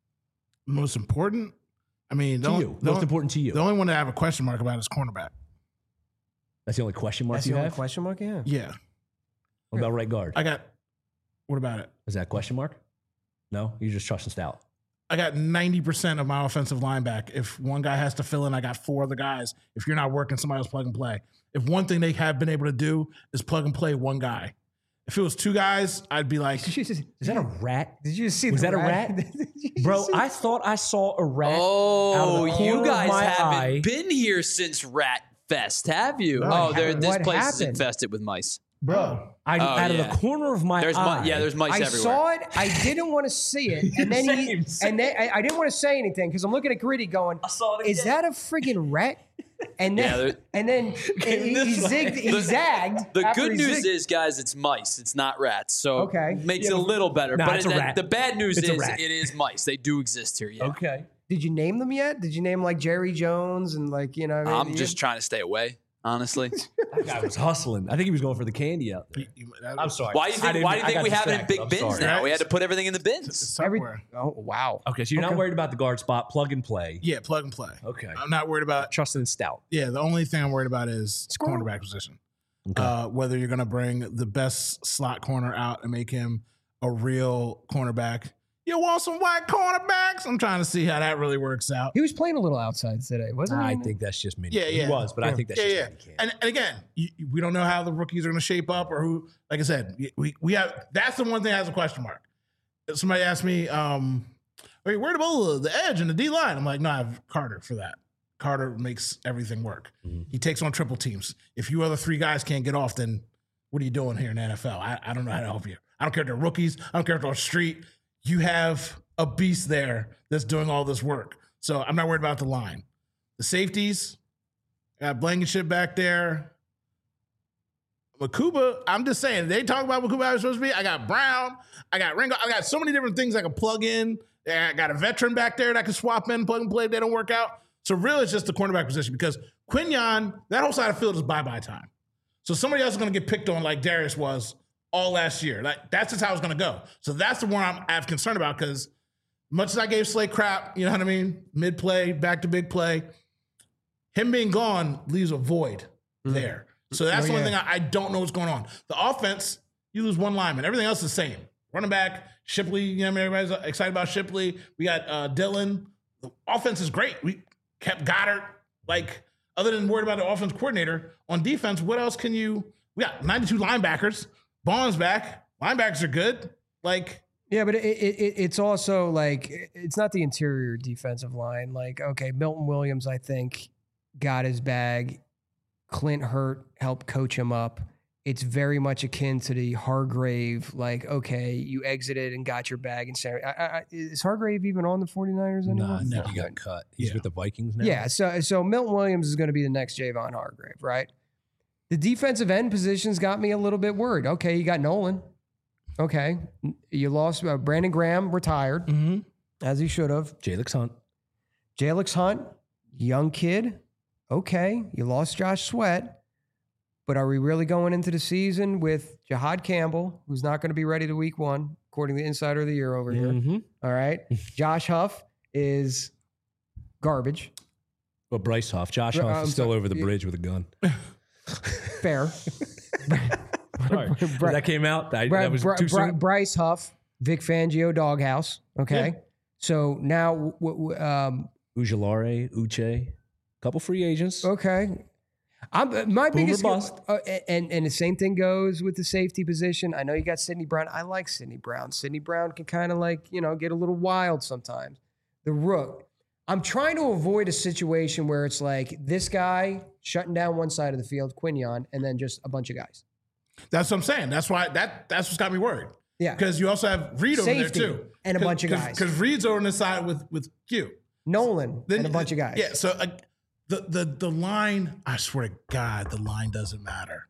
Most important? I mean, Most important to you. The only one that I have a question mark about is cornerback. That's the only question mark That's you the only have? question mark. Yeah. Yeah. What about right guard? What about it? Is that a question mark? No? You're just trusting Stout. I got 90% of my offensive line back. If one guy has to fill in, I got 4 other guys. If you're not working, somebody else plug and play. If one thing they have been able to do is plug and play one guy. If it was 2 guys, I'd be like, Is that a rat? Did you see? Was the that a rat? Bro, I thought I saw a rat. out of the corner you of guys my haven't eye. been here since Rat Fest, have you? What This what place is happened? infested with mice. Bro, Oh, out of yeah. the corner of my There's eye. there's mice I everywhere. saw it. I didn't want to see it, and then I didn't want to say anything because I'm looking at Gritty going, saw it "Is that a friggin' rat?" And then he zagged. The after good he news zigged. is, guys, it's mice. It's not rats. So Okay. makes it a little better. Nah, but it's a rat. the bad news It's a is rat. it is mice. They do exist here. Yeah. Okay. Did you name them yet? Did you name like Jerry Jones and like I'm just trying to stay away, honestly. That guy was hustling. I think he was going for the candy out there. I'm sorry. Why do you think we have it in big bins now? We had to put everything in the bins. somewhere. Oh wow. Okay, so you're not worried about the guard spot, plug and play. Yeah, plug and play. Okay. I'm not worried about. Trusting in Stout. Yeah, the only thing I'm worried about is Squirrel. cornerback position. Okay. Whether you're going to bring the best slot corner out and make him a real cornerback. You want some white cornerbacks? I'm trying to see how that really works out. He was playing a little outside today, wasn't he? I think that's just mini. Yeah. He was, but I think that's just mini. And again, we don't know how the rookies are going to shape up or who. Like I said, we have. That's the one thing that has a question mark. Somebody asked me, "Are you worried about the edge and the D line?" I'm like, "No, I have Carter for that. Carter makes everything work. He takes on triple teams. If you other three guys can't get off, then what are you doing here in the NFL? I don't know how to help you. I don't care if they're rookies. I don't care if they're on the street. You have a beast there that's doing all this work. So I'm not worried about the line. The safeties, got Blankenship back there. Makuba, I'm just saying, they talk about Makuba how it's supposed to be. I got Brown. I got Ringo. I got so many different things I can plug in. I got a veteran back there that I can swap in, plug and play if they don't work out. So really, it's just the cornerback position because Quinyon, that whole side of the field is bye-bye time. So somebody else is going to get picked on like Darius was all last year. Like that's just how it's going to go. So that's the one I have concern about because much as I gave Slay crap, you know what I mean? Mid-play, back to big play, him being gone leaves a void there. So that's the one thing I don't know what's going on. The offense, you lose one lineman. Everything else is the same. Running back, Shipley, you know, everybody's excited about Shipley. We got Dillon. The offense is great. We kept Goddard. Like, other than worried about the offense coordinator, on defense, what else can you? We got 92 linebackers. Bond's back. Linebackers are good. Like, yeah, but it's also like, it's not the interior defensive line. Like, okay, Milton Williams, I think, got his bag. Clint Hurt helped coach him up. It's very much akin to the Hargrave, like, okay, you exited and got your bag. And is Hargrave even on the 49ers anymore? No, he got cut. He's with the Vikings now. Yeah, so Milton Williams is going to be the next Javon Hargrave, right? The defensive end positions got me a little bit worried. Okay, you got Nolan. Okay, you lost Brandon Graham, retired, as he should have. Jalix Hunt, young kid. Okay, you lost Josh Sweat. But are we really going into the season with Jahad Campbell, who's not going to be ready to week one, according to the Insider of the Year over here? All right. Josh Huff is garbage. Well, Bryce Huff. Josh Huff is still over the bridge with a gun. Fair. Sorry. That came out. That was too soon. Bryce Huff, Vic Fangio doghouse. Okay. Yeah. So now Ujulare, Uche, couple free agents. Okay. My biggest bust. And the same thing goes with the safety position. I know you got Sidney Brown. I like Sidney Brown. Sidney Brown can kind of like, you know, get a little wild sometimes. The Rook. I'm trying to avoid a situation where it's like this guy shutting down one side of the field, Quinyon, and then just a bunch of guys. That's what I'm saying. That's why that's what's got me worried. Yeah. Because you also have Reed over there too. And a bunch of guys. Because Reed's over on the side with Q. Nolan and a bunch of guys. Yeah. So the line, I swear to God, the line doesn't matter.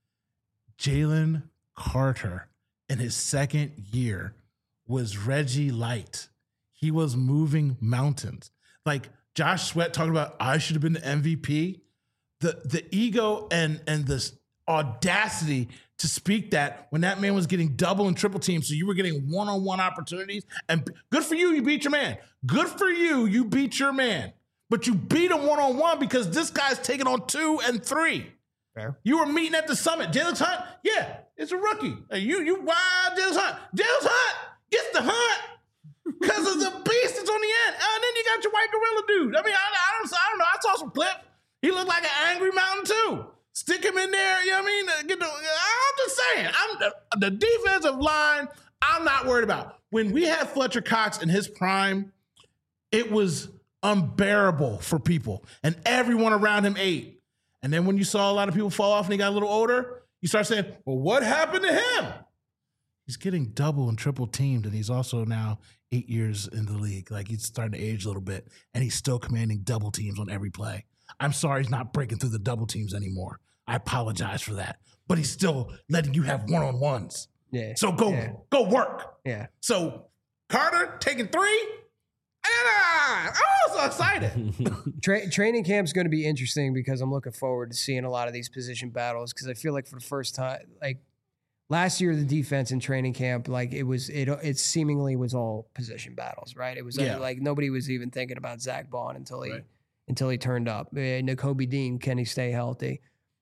Jalen Carter in his second year was Reggie Light. He was moving mountains. Like Josh Sweat talking about, I should have been the MVP. The ego and the audacity to speak that when that man was getting double and triple teams, so you were getting one-on-one opportunities. And good for you, you beat your man. Good for you, you beat your man. But you beat him one-on-one because this guy's taking on 2 and 3. Fair. You were meeting at the summit. Jalix Hunt, yeah, it's a rookie. You wild Jalix Hunt. Jalix Hunt gets the hunt because of the beast that's on the end. And then you got your white gorilla dude. I mean, I don't know. I saw some clips. He looked like an angry mountain too. Stick him in there, you know what I mean? I'm just saying, the defensive line, I'm not worried about. When we had Fletcher Cox in his prime, it was unbearable for people. And everyone around him ate. And then when you saw a lot of people fall off and he got a little older, you start saying, well, what happened to him? He's getting double and triple teamed, and he's also now 8 years in the league. Like, he's starting to age a little bit, and he's still commanding double teams on every play. I'm sorry he's not breaking through the double teams anymore. I apologize for that. But he's still letting you have one-on-ones. Yeah. So go work. Yeah. So Carter taking 3. I'm so excited. Training camp's going to be interesting because I'm looking forward to seeing a lot of these position battles because I feel like for the first time, like last year, the defense in training camp, like it seemingly was all position battles, right? It was like nobody was even thinking about Zach Bond until he turned up. Nakobe Dean, can he stay healthy?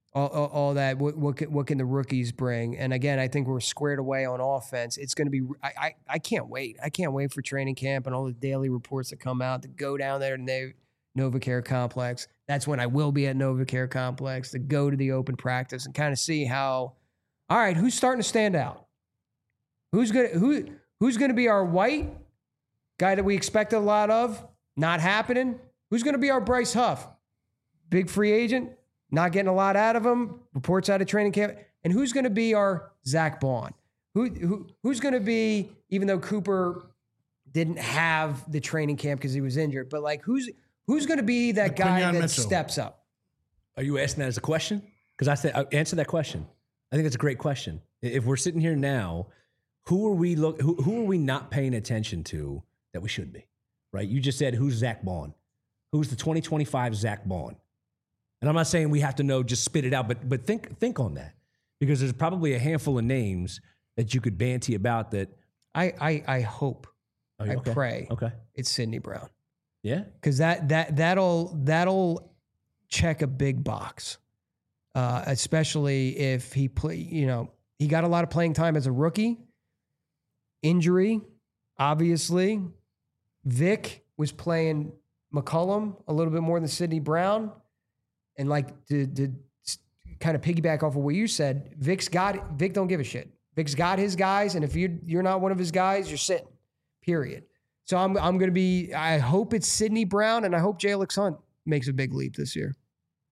all that. What can the rookies bring? And again, I think we're squared away on offense. It's going to be. I can't wait. I can't wait for training camp and all the daily reports that come out to go down there to NovaCare Complex. That's when I will be at NovaCare Complex to go to the open practice and kind of see how. All right, who's starting to stand out? Who's gonna be our white guy that we expected a lot of? Not happening. Who's gonna be our Bryce Huff? Big free agent, not getting a lot out of him. Reports out of training camp. And who's gonna be our Zach Bond? Who's gonna be, even though Cooper didn't have the training camp because he was injured, but like who's gonna be that guy that steps up? Are you asking that as a question? Because I said answer that question. I think it's a great question. If we're sitting here now, who are we not paying attention to that we should be? Right? You just said, who's Zach Bond? Who's the 2025 Zach Bond? And I'm not saying we have to know, just spit it out, but think on that, because there's probably a handful of names that you could banty about that. I hope, I pray, it's Sidney Brown. Yeah, because that'll check a big box. Especially if he he got a lot of playing time as a rookie. Injury, obviously. Vic was playing McCollum a little bit more than Sidney Brown. And like to kind of piggyback off of what you said, Vic don't give a shit. Vic's got his guys, and if you're not one of his guys, you're sitting. Period. So I'm going to be. I hope it's Sidney Brown, and I hope Jalen Hunt makes a big leap this year.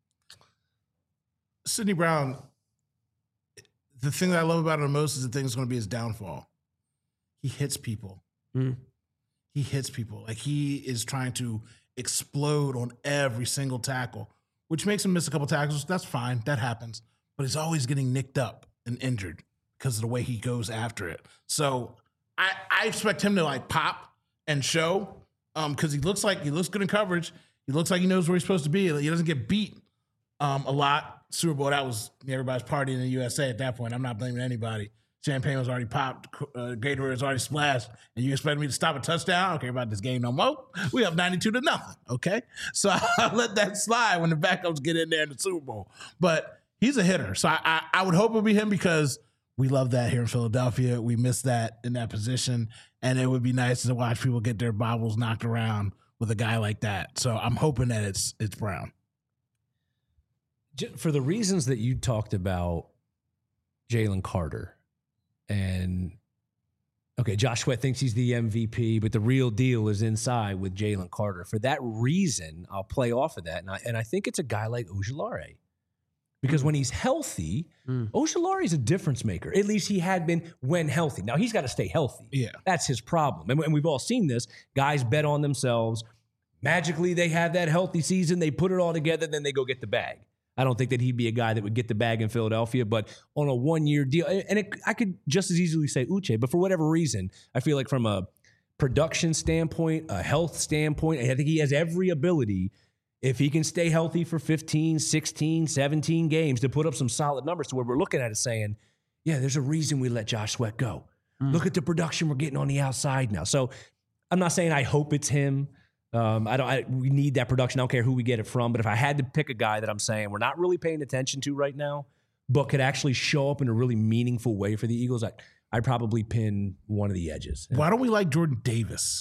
Sidney Brown, the thing that I love about him the most is the thing that's going to be his downfall. He hits people. He hits people. Like, he is trying to explode on every single tackle, which makes him miss a couple tackles. That's fine. That happens. But he's always getting nicked up and injured because of the way he goes after it. So I expect him to, like, pop and show because he looks good in coverage. He looks like he knows where he's supposed to be. He doesn't get beat a lot. Super Bowl, that was everybody's partying in the USA at that point. I'm not blaming anybody. Champagne was already popped. Gatorade was already splashed. And you expect me to stop a touchdown? I don't care about this game no more. We have 92-0, okay? So I'll let that slide when the backups get in there in the Super Bowl. But he's a hitter. So I would hope it would be him because we love that here in Philadelphia. We miss that in that position. And it would be nice to watch people get their bobbles knocked around with a guy like that. So I'm hoping that it's Brown. For the reasons that you talked about Jalen Carter, and okay, Josh Sweat thinks he's the MVP, but the real deal is inside with Jalen Carter. For that reason, I'll play off of that. And I think it's a guy like Ojulari. Because when he's healthy, Ojulari is a difference maker. At least he had been when healthy. Now, he's got to stay healthy. Yeah. That's his problem. And we've all seen this. Guys bet on themselves. Magically, they have that healthy season. They put it all together, then they go get the bag. I don't think that he'd be a guy that would get the bag in Philadelphia, but on a one-year deal, and I could just as easily say Uche, but for whatever reason, I feel like from a production standpoint, a health standpoint, I think he has every ability, if he can stay healthy for 15, 16, 17 games, to put up some solid numbers to where we're looking at it saying, yeah, there's a reason we let Josh Sweat go. Look at the production we're getting on the outside now. So I'm not saying I hope it's him. We need that production. I don't care who we get it from. But if I had to pick a guy that I'm saying we're not really paying attention to right now, but could actually show up in a really meaningful way for the Eagles, I'd probably pin one of the edges. Why don't we like Jordan Davis?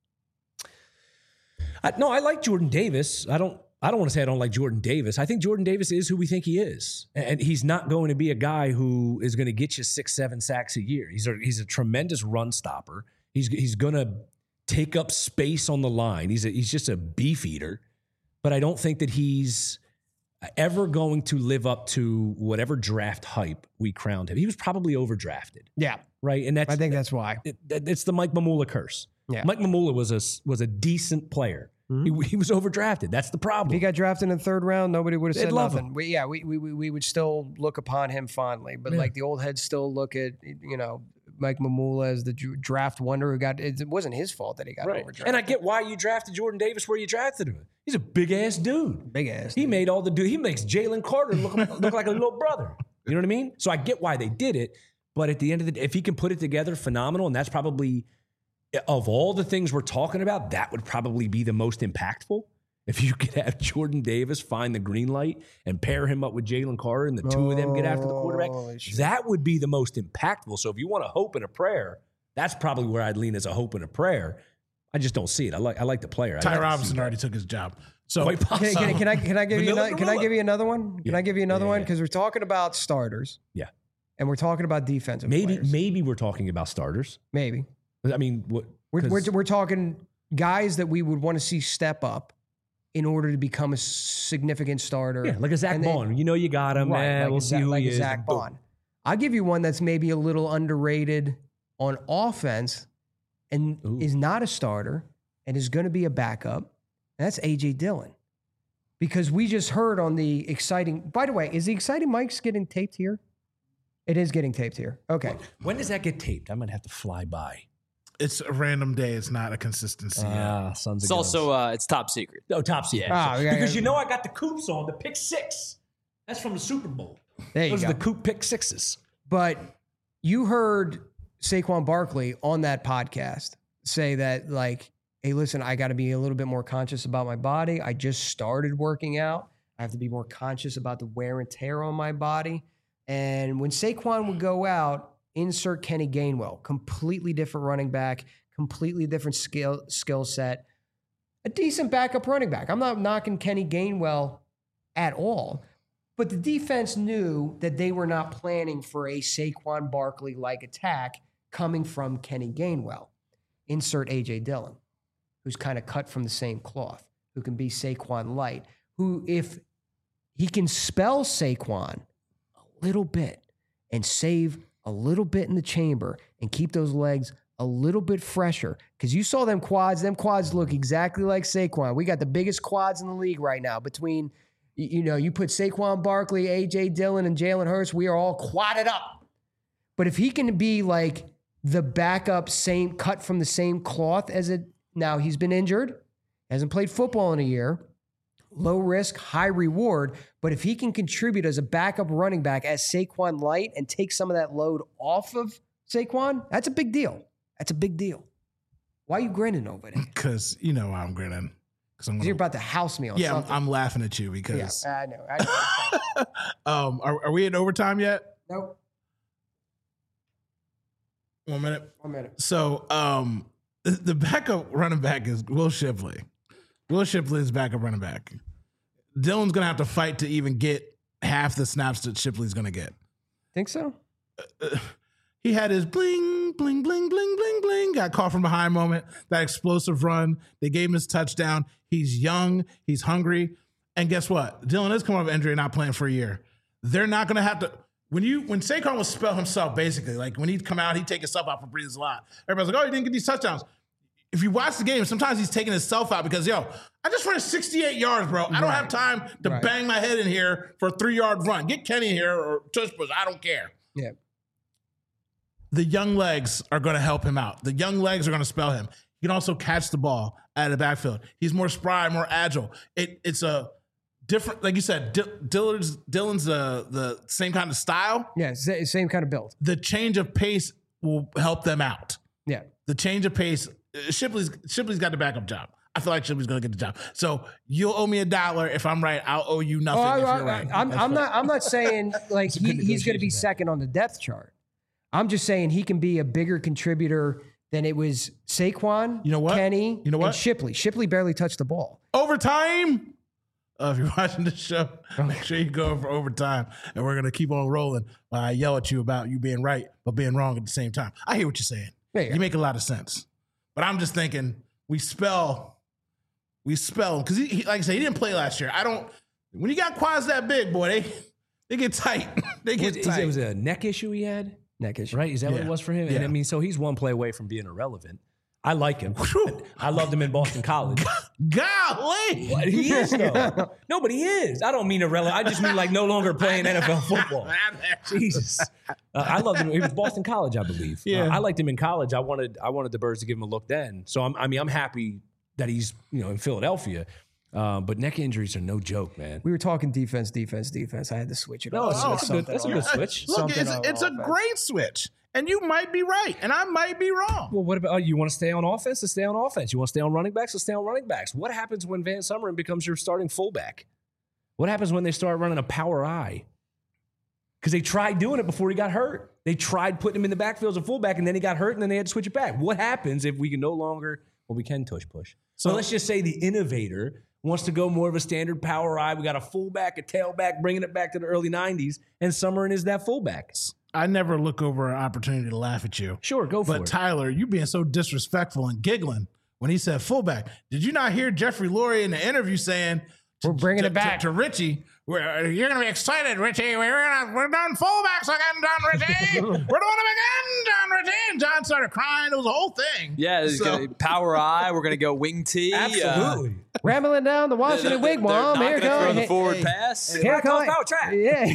No, I like Jordan Davis. I don't want to say I don't like Jordan Davis. I think Jordan Davis is who we think he is. And he's not going to be a guy who is going to get you 6-7 sacks a year. He's a tremendous run stopper. He's going to take up space on the line. He's just a beef eater, but I don't think that he's ever going to live up to whatever draft hype we crowned him. He was probably overdrafted. Yeah. Right. And I think that's why. It's the Mike Mamula curse. Yeah. Mike Mamula was a decent player. He was overdrafted. That's the problem. If he got drafted in the third round, nobody would have said nothing. Him. We would still look upon him fondly, but like the old heads still look at, Mike Mamula as the draft wonder who it wasn't his fault that he got overdrafted. And I get why you drafted Jordan Davis where you drafted him. He's a big ass dude. He made all the dude. He makes Jalen Carter look like a little brother. You know what I mean? So I get why they did it, but at the end of the day, if he can put it together, phenomenal. And that's probably, of all the things we're talking about, that would probably be the most impactful. If you could have Jordan Davis find the green light and pair him up with Jalen Carter and the two of them get after the quarterback, that would be the most impactful. So if you want a hope and a prayer, that's probably where I'd lean as a hope and a prayer. I just don't see it. I like the player. Ty Robinson already took his job. So can I give you another one? Can I give you another one? Because we're talking about starters. Yeah. And we're talking about defensive players. Maybe we're talking about starters. Maybe. I mean, we're talking guys that we would want to see step up in order to become a significant starter. Yeah, like a Zach Bond. You got him, man. Like we'll see who he is. Zach Bond. I'll give you one that's maybe a little underrated on offense and is not a starter and is going to be a backup. And that's A.J. Dillon. Because we just heard on the exciting... By the way, is the exciting mics getting taped here? It is getting taped here. Okay. When does that get taped? I might have to fly by. It's a random day. It's not a consistency. Sons of It's also it's top secret. Oh, top secret. Yeah. Because I got the Coops on, the pick six. That's from the Super Bowl. Those are the Coop pick sixes. But you heard Saquon Barkley on that podcast say that, like, hey, listen, I got to be a little bit more conscious about my body. I just started working out. I have to be more conscious about the wear and tear on my body. And when Saquon would go out, insert Kenny Gainwell, completely different running back, completely different skill set, a decent backup running back. I'm not knocking Kenny Gainwell at all, but the defense knew that they were not planning for a Saquon Barkley-like attack coming from Kenny Gainwell. Insert A.J. Dillon, who's kind of cut from the same cloth, who can be Saquon light, who if he can spell Saquon a little bit and save a little bit in the chamber and keep those legs a little bit fresher. Because you saw them quads. Them quads look exactly like Saquon. We got the biggest quads in the league right now. Between, you put Saquon Barkley, A.J. Dillon, and Jalen Hurts, we are all quadded up. But if he can be like the backup, same cut from the same cloth as it, now he's been injured, hasn't played football in a year, low risk, high reward. But if he can contribute as a backup running back as Saquon light and take some of that load off of Saquon, that's a big deal. That's a big deal. Why are you grinning over there? Because you know why I'm grinning. Because you're about to house me on something. I'm laughing at you because... Yeah, I know. Are we in overtime yet? Nope. 1 minute. 1 minute. So the backup running back is Will Shipley. Will Shipley is backup running back. Dillon's going to have to fight to even get half the snaps that Shipley's going to get. Think so? He had his bling, bling, bling, bling, bling, bling. Got caught from behind moment. That explosive run. They gave him his touchdown. He's young. He's hungry. And guess what? Dillon is coming off injury and not playing for a year. They're not going to have to... When Saquon would spell himself, basically, like when he'd come out, he'd take himself out for breathing a lot. Everybody's like, oh, he didn't get these touchdowns. If you watch the game, sometimes he's taking himself out because, I just ran 68 yards, bro. I don't have time to bang my head in here for a 3-yard run. Get Kenny here or Tush Push. I don't care. Yeah. The young legs are going to help him out. The young legs are going to spell him. He can also catch the ball out of the backfield. He's more spry, more agile. It's a different, like you said, Dillon's the same kind of style. Yeah, same kind of build. The change of pace will help them out. Yeah. The change of pace, Shipley's got the backup job. I feel like Shipley's going to get the job. So you'll owe me $1 if I'm right. I'll owe you nothing if you're right. I'm not saying like he's going to be second on the depth chart. I'm just saying he can be a bigger contributor than it was Saquon, Kenny, and Shipley. Shipley barely touched the ball. Overtime. If you're watching the show, make sure you go for overtime. And we're going to keep on rolling while I yell at you about you being right, but being wrong at the same time. I hear what you're saying. You make a lot of sense. But I'm just thinking we spell, because he, like I said, he didn't play last year. When you got quads that big, boy, they get tight. It was a neck issue he had? Neck issue. Right? Is that what it was for him? Yeah. And I mean, so he's one play away from being irrelevant. I like him. I loved him in Boston College. Golly. What? He is, though. No, but he is. I don't mean irrelevant. I just mean like no longer playing NFL football. Jesus. I loved him. He was Boston College, I believe. Yeah. I liked him in college. I wanted the Birds to give him a look then. So I'm happy that he's in Philadelphia. But neck injuries are no joke, man. We were talking defense. I had to switch it. No, off. that's a good switch. Look, it's a great switch. And you might be right, and I might be wrong. Well, what about you want to stay on offense? Let's stay on offense. You want to stay on running backs? Let's stay on running backs. What happens when Van Sumeren becomes your starting fullback? What happens when they start running a power I? Because they tried doing it before he got hurt. They tried putting him in the backfield as a fullback, and then he got hurt, and then they had to switch it back. What happens if we can no longer, well, we can tush push. So let's just say the innovator wants to go more of a standard power I. We got a fullback, a tailback, bringing it back to the early 90s, and Sumeren is that fullback. I never look over an opportunity to laugh at you. Sure, go for it. But Tyler, you being so disrespectful and giggling when he said fullback. Did you not hear Jeffrey Lurie in the interview saying, we're bringing it back to Richie, you're going to be excited, Richie. We're done fullbacks again, John Richie. We're doing them again, John Richie. And John started crying. It was a whole thing. Yeah, power I. We're going to go wing T. Absolutely. Rambling down the Washington Wigwam. Here throw the goes forward pass. Here comes power track.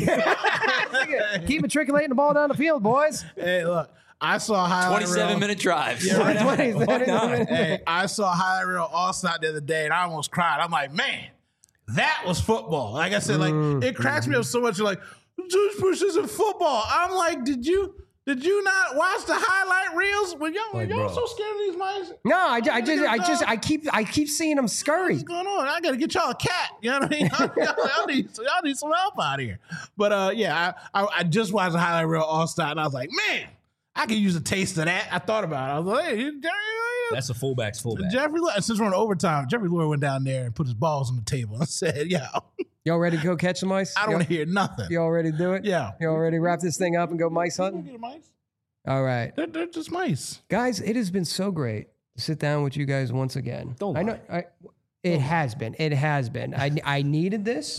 Yeah. Keep matriculating the ball down the field, boys. Hey, look. I saw highlight 27-minute drives. Yeah, right. 27 Hey, I saw highlight reel All-Star the other day, and I almost cried. I'm like, man, that was football. Like I said, like it cracks me up so much. You're like, tush push isn't football. I'm like, did you not watch the highlight reels? When y'all so scared of these mice? No, I keep seeing them scurry. What's going on? I gotta get y'all a cat. You know what I mean? y'all need some help out here. But I just watched the highlight reel All-Star, and I was like, man, I could use a taste of that. I thought about it. I was like, hey, that's a fullback's fullback. Jeffrey, since we're in overtime, Jeffrey Lurie went down there and put his balls on the table and said, yo. Y'all ready to go catch some mice? I don't want to hear nothing. Y'all ready to do it? Yeah. Y'all ready to wrap this thing up and go mice hunting? Get mice. All right. They're just mice. Guys, it has been so great to sit down with you guys once again. Don't lie. It has been. I needed this.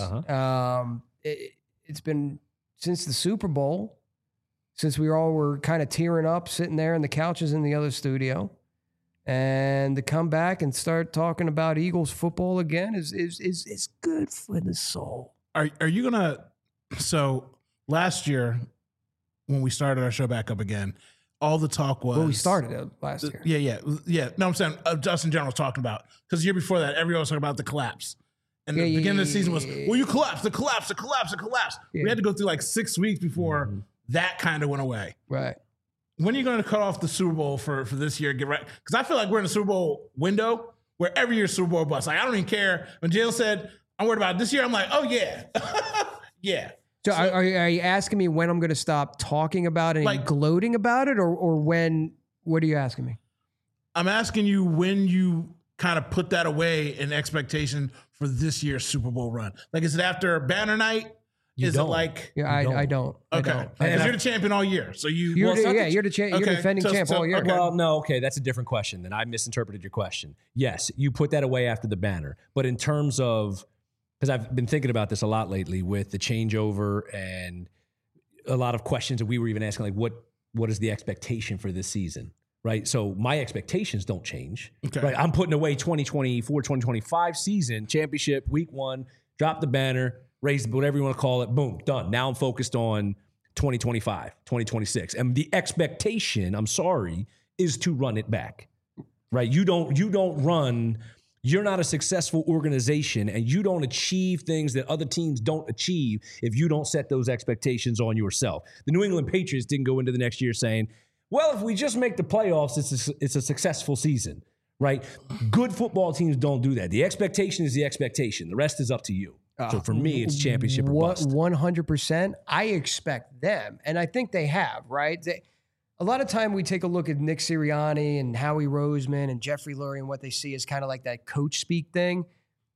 It's been since the Super Bowl, since we all were kind of tearing up, sitting there in the couches in the other studio. And to come back and start talking about Eagles football again is good for the soul. Are you gonna? So last year, when we started our show back up again, all the talk was. Well, we started it last year. Yeah. No, I'm saying Justin General was talking about, because the year before that, everyone was talking about the collapse. And the beginning of the season was, well, you collapsed, the collapse. Yeah. We had to go through like 6 weeks before that kind of went away. Right. When are you going to cut off the Super Bowl for this year? Get right, because I feel like we're in a Super Bowl window where every year Super Bowl bust. Like, I don't even care. When Jalen said, I'm worried about it this year, I'm like, oh, yeah. Yeah. So are you asking me when I'm going to stop talking about it and gloating about it, or when? What are you asking me? I'm asking you when you kind of put that away in expectation for this year's Super Bowl run. Like, is it after banner night? Is it like? Yeah, I don't. Okay, because you're the champion all year, so you're the defending champ all year. Okay. Well, no, okay, that's a different question. Then I misinterpreted your question. Yes, you put that away after the banner, but in terms of, because I've been thinking about this a lot lately with the changeover and a lot of questions that we were even asking, like what is the expectation for this season, right? So my expectations don't change. Okay. Right? I'm putting away 2024, 2025 season, championship, week 1, drop the banner, raise whatever you want to call it, boom, done. Now I'm focused on 2025, 2026. And the expectation, I'm sorry, is to run it back, right? You don't run, you're not a successful organization, and you don't achieve things that other teams don't achieve if you don't set those expectations on yourself. The New England Patriots didn't go into the next year saying, well, if we just make the playoffs, it's a successful season, right? Good football teams don't do that. The expectation is the expectation. The rest is up to you. So for me, it's championship or bust. 100%. I expect them, and I think they have, right? A lot of time we take a look at Nick Sirianni and Howie Roseman and Jeffrey Lurie, and what they see is kind of like that coach speak thing.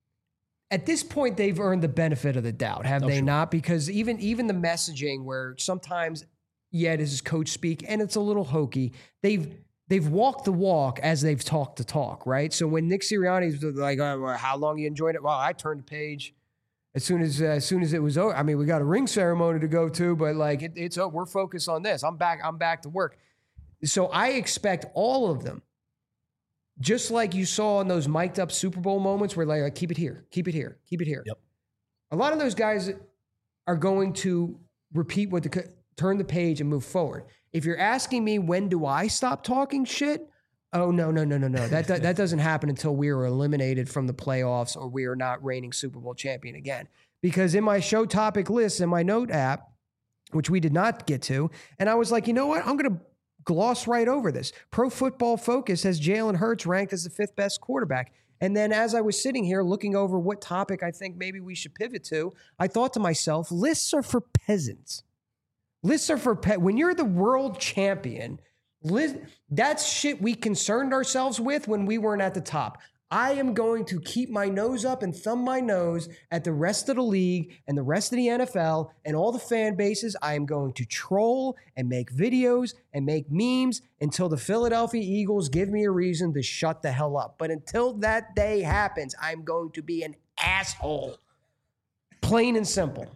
At this point, they've earned the benefit of the doubt, have they not? Because even the messaging where sometimes, it is coach speak, and it's a little hokey, they've walked the walk as they've talked the talk, right? So when Nick Sirianni's like, how long you enjoyed it? Well, I turned the page as soon as it was over. I mean, we got a ring ceremony to go to, but like it's we're focused on this. I'm back to work. So I expect all of them, just like you saw in those mic'd up Super Bowl moments where like keep it here. Yep. A lot of those guys are going to repeat turn the page and move forward. If you're asking me when do I stop talking shit, Oh, no. That doesn't happen until we are eliminated from the playoffs or we are not reigning Super Bowl champion again. Because in my show topic list in my note app, which we did not get to, and I was like, you know what? I'm going to gloss right over this. Pro Football Focus has Jalen Hurts ranked as the 5th best quarterback. And then as I was sitting here looking over what topic I think maybe we should pivot to, I thought to myself, lists are for peasants. Lists are for when you're the world champion, that's shit we concerned ourselves with when we weren't at the top. I am going to keep my nose up and thumb my nose at the rest of the league and the rest of the NFL and all the fan bases. I am going to troll and make videos and make memes until the Philadelphia Eagles give me a reason to shut the hell up. But until that day happens, I'm going to be an asshole. Plain and simple.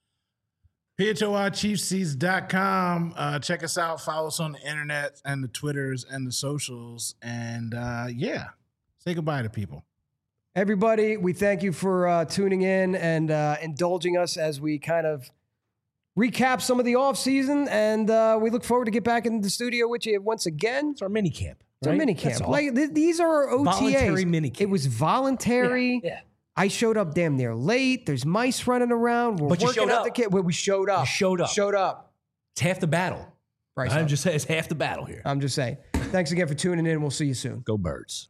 PHOIChiefseats.com. Check us out. Follow us on the internet and the Twitters and the socials. And say goodbye to people. Everybody, we thank you for tuning in and indulging us as we kind of recap some of the offseason. And we look forward to get back in the studio with you once again. It's our mini camp. It's our mini camp. Like, these are our OTAs. Voluntary mini camp. It was voluntary. Yeah. I showed up damn near late. There's mice running around. We're working out the kid. We showed up. You showed up. Showed up. It's half the battle. Right. I'm just saying it's half the battle here. I'm just saying. Thanks again for tuning in. We'll see you soon. Go Birds.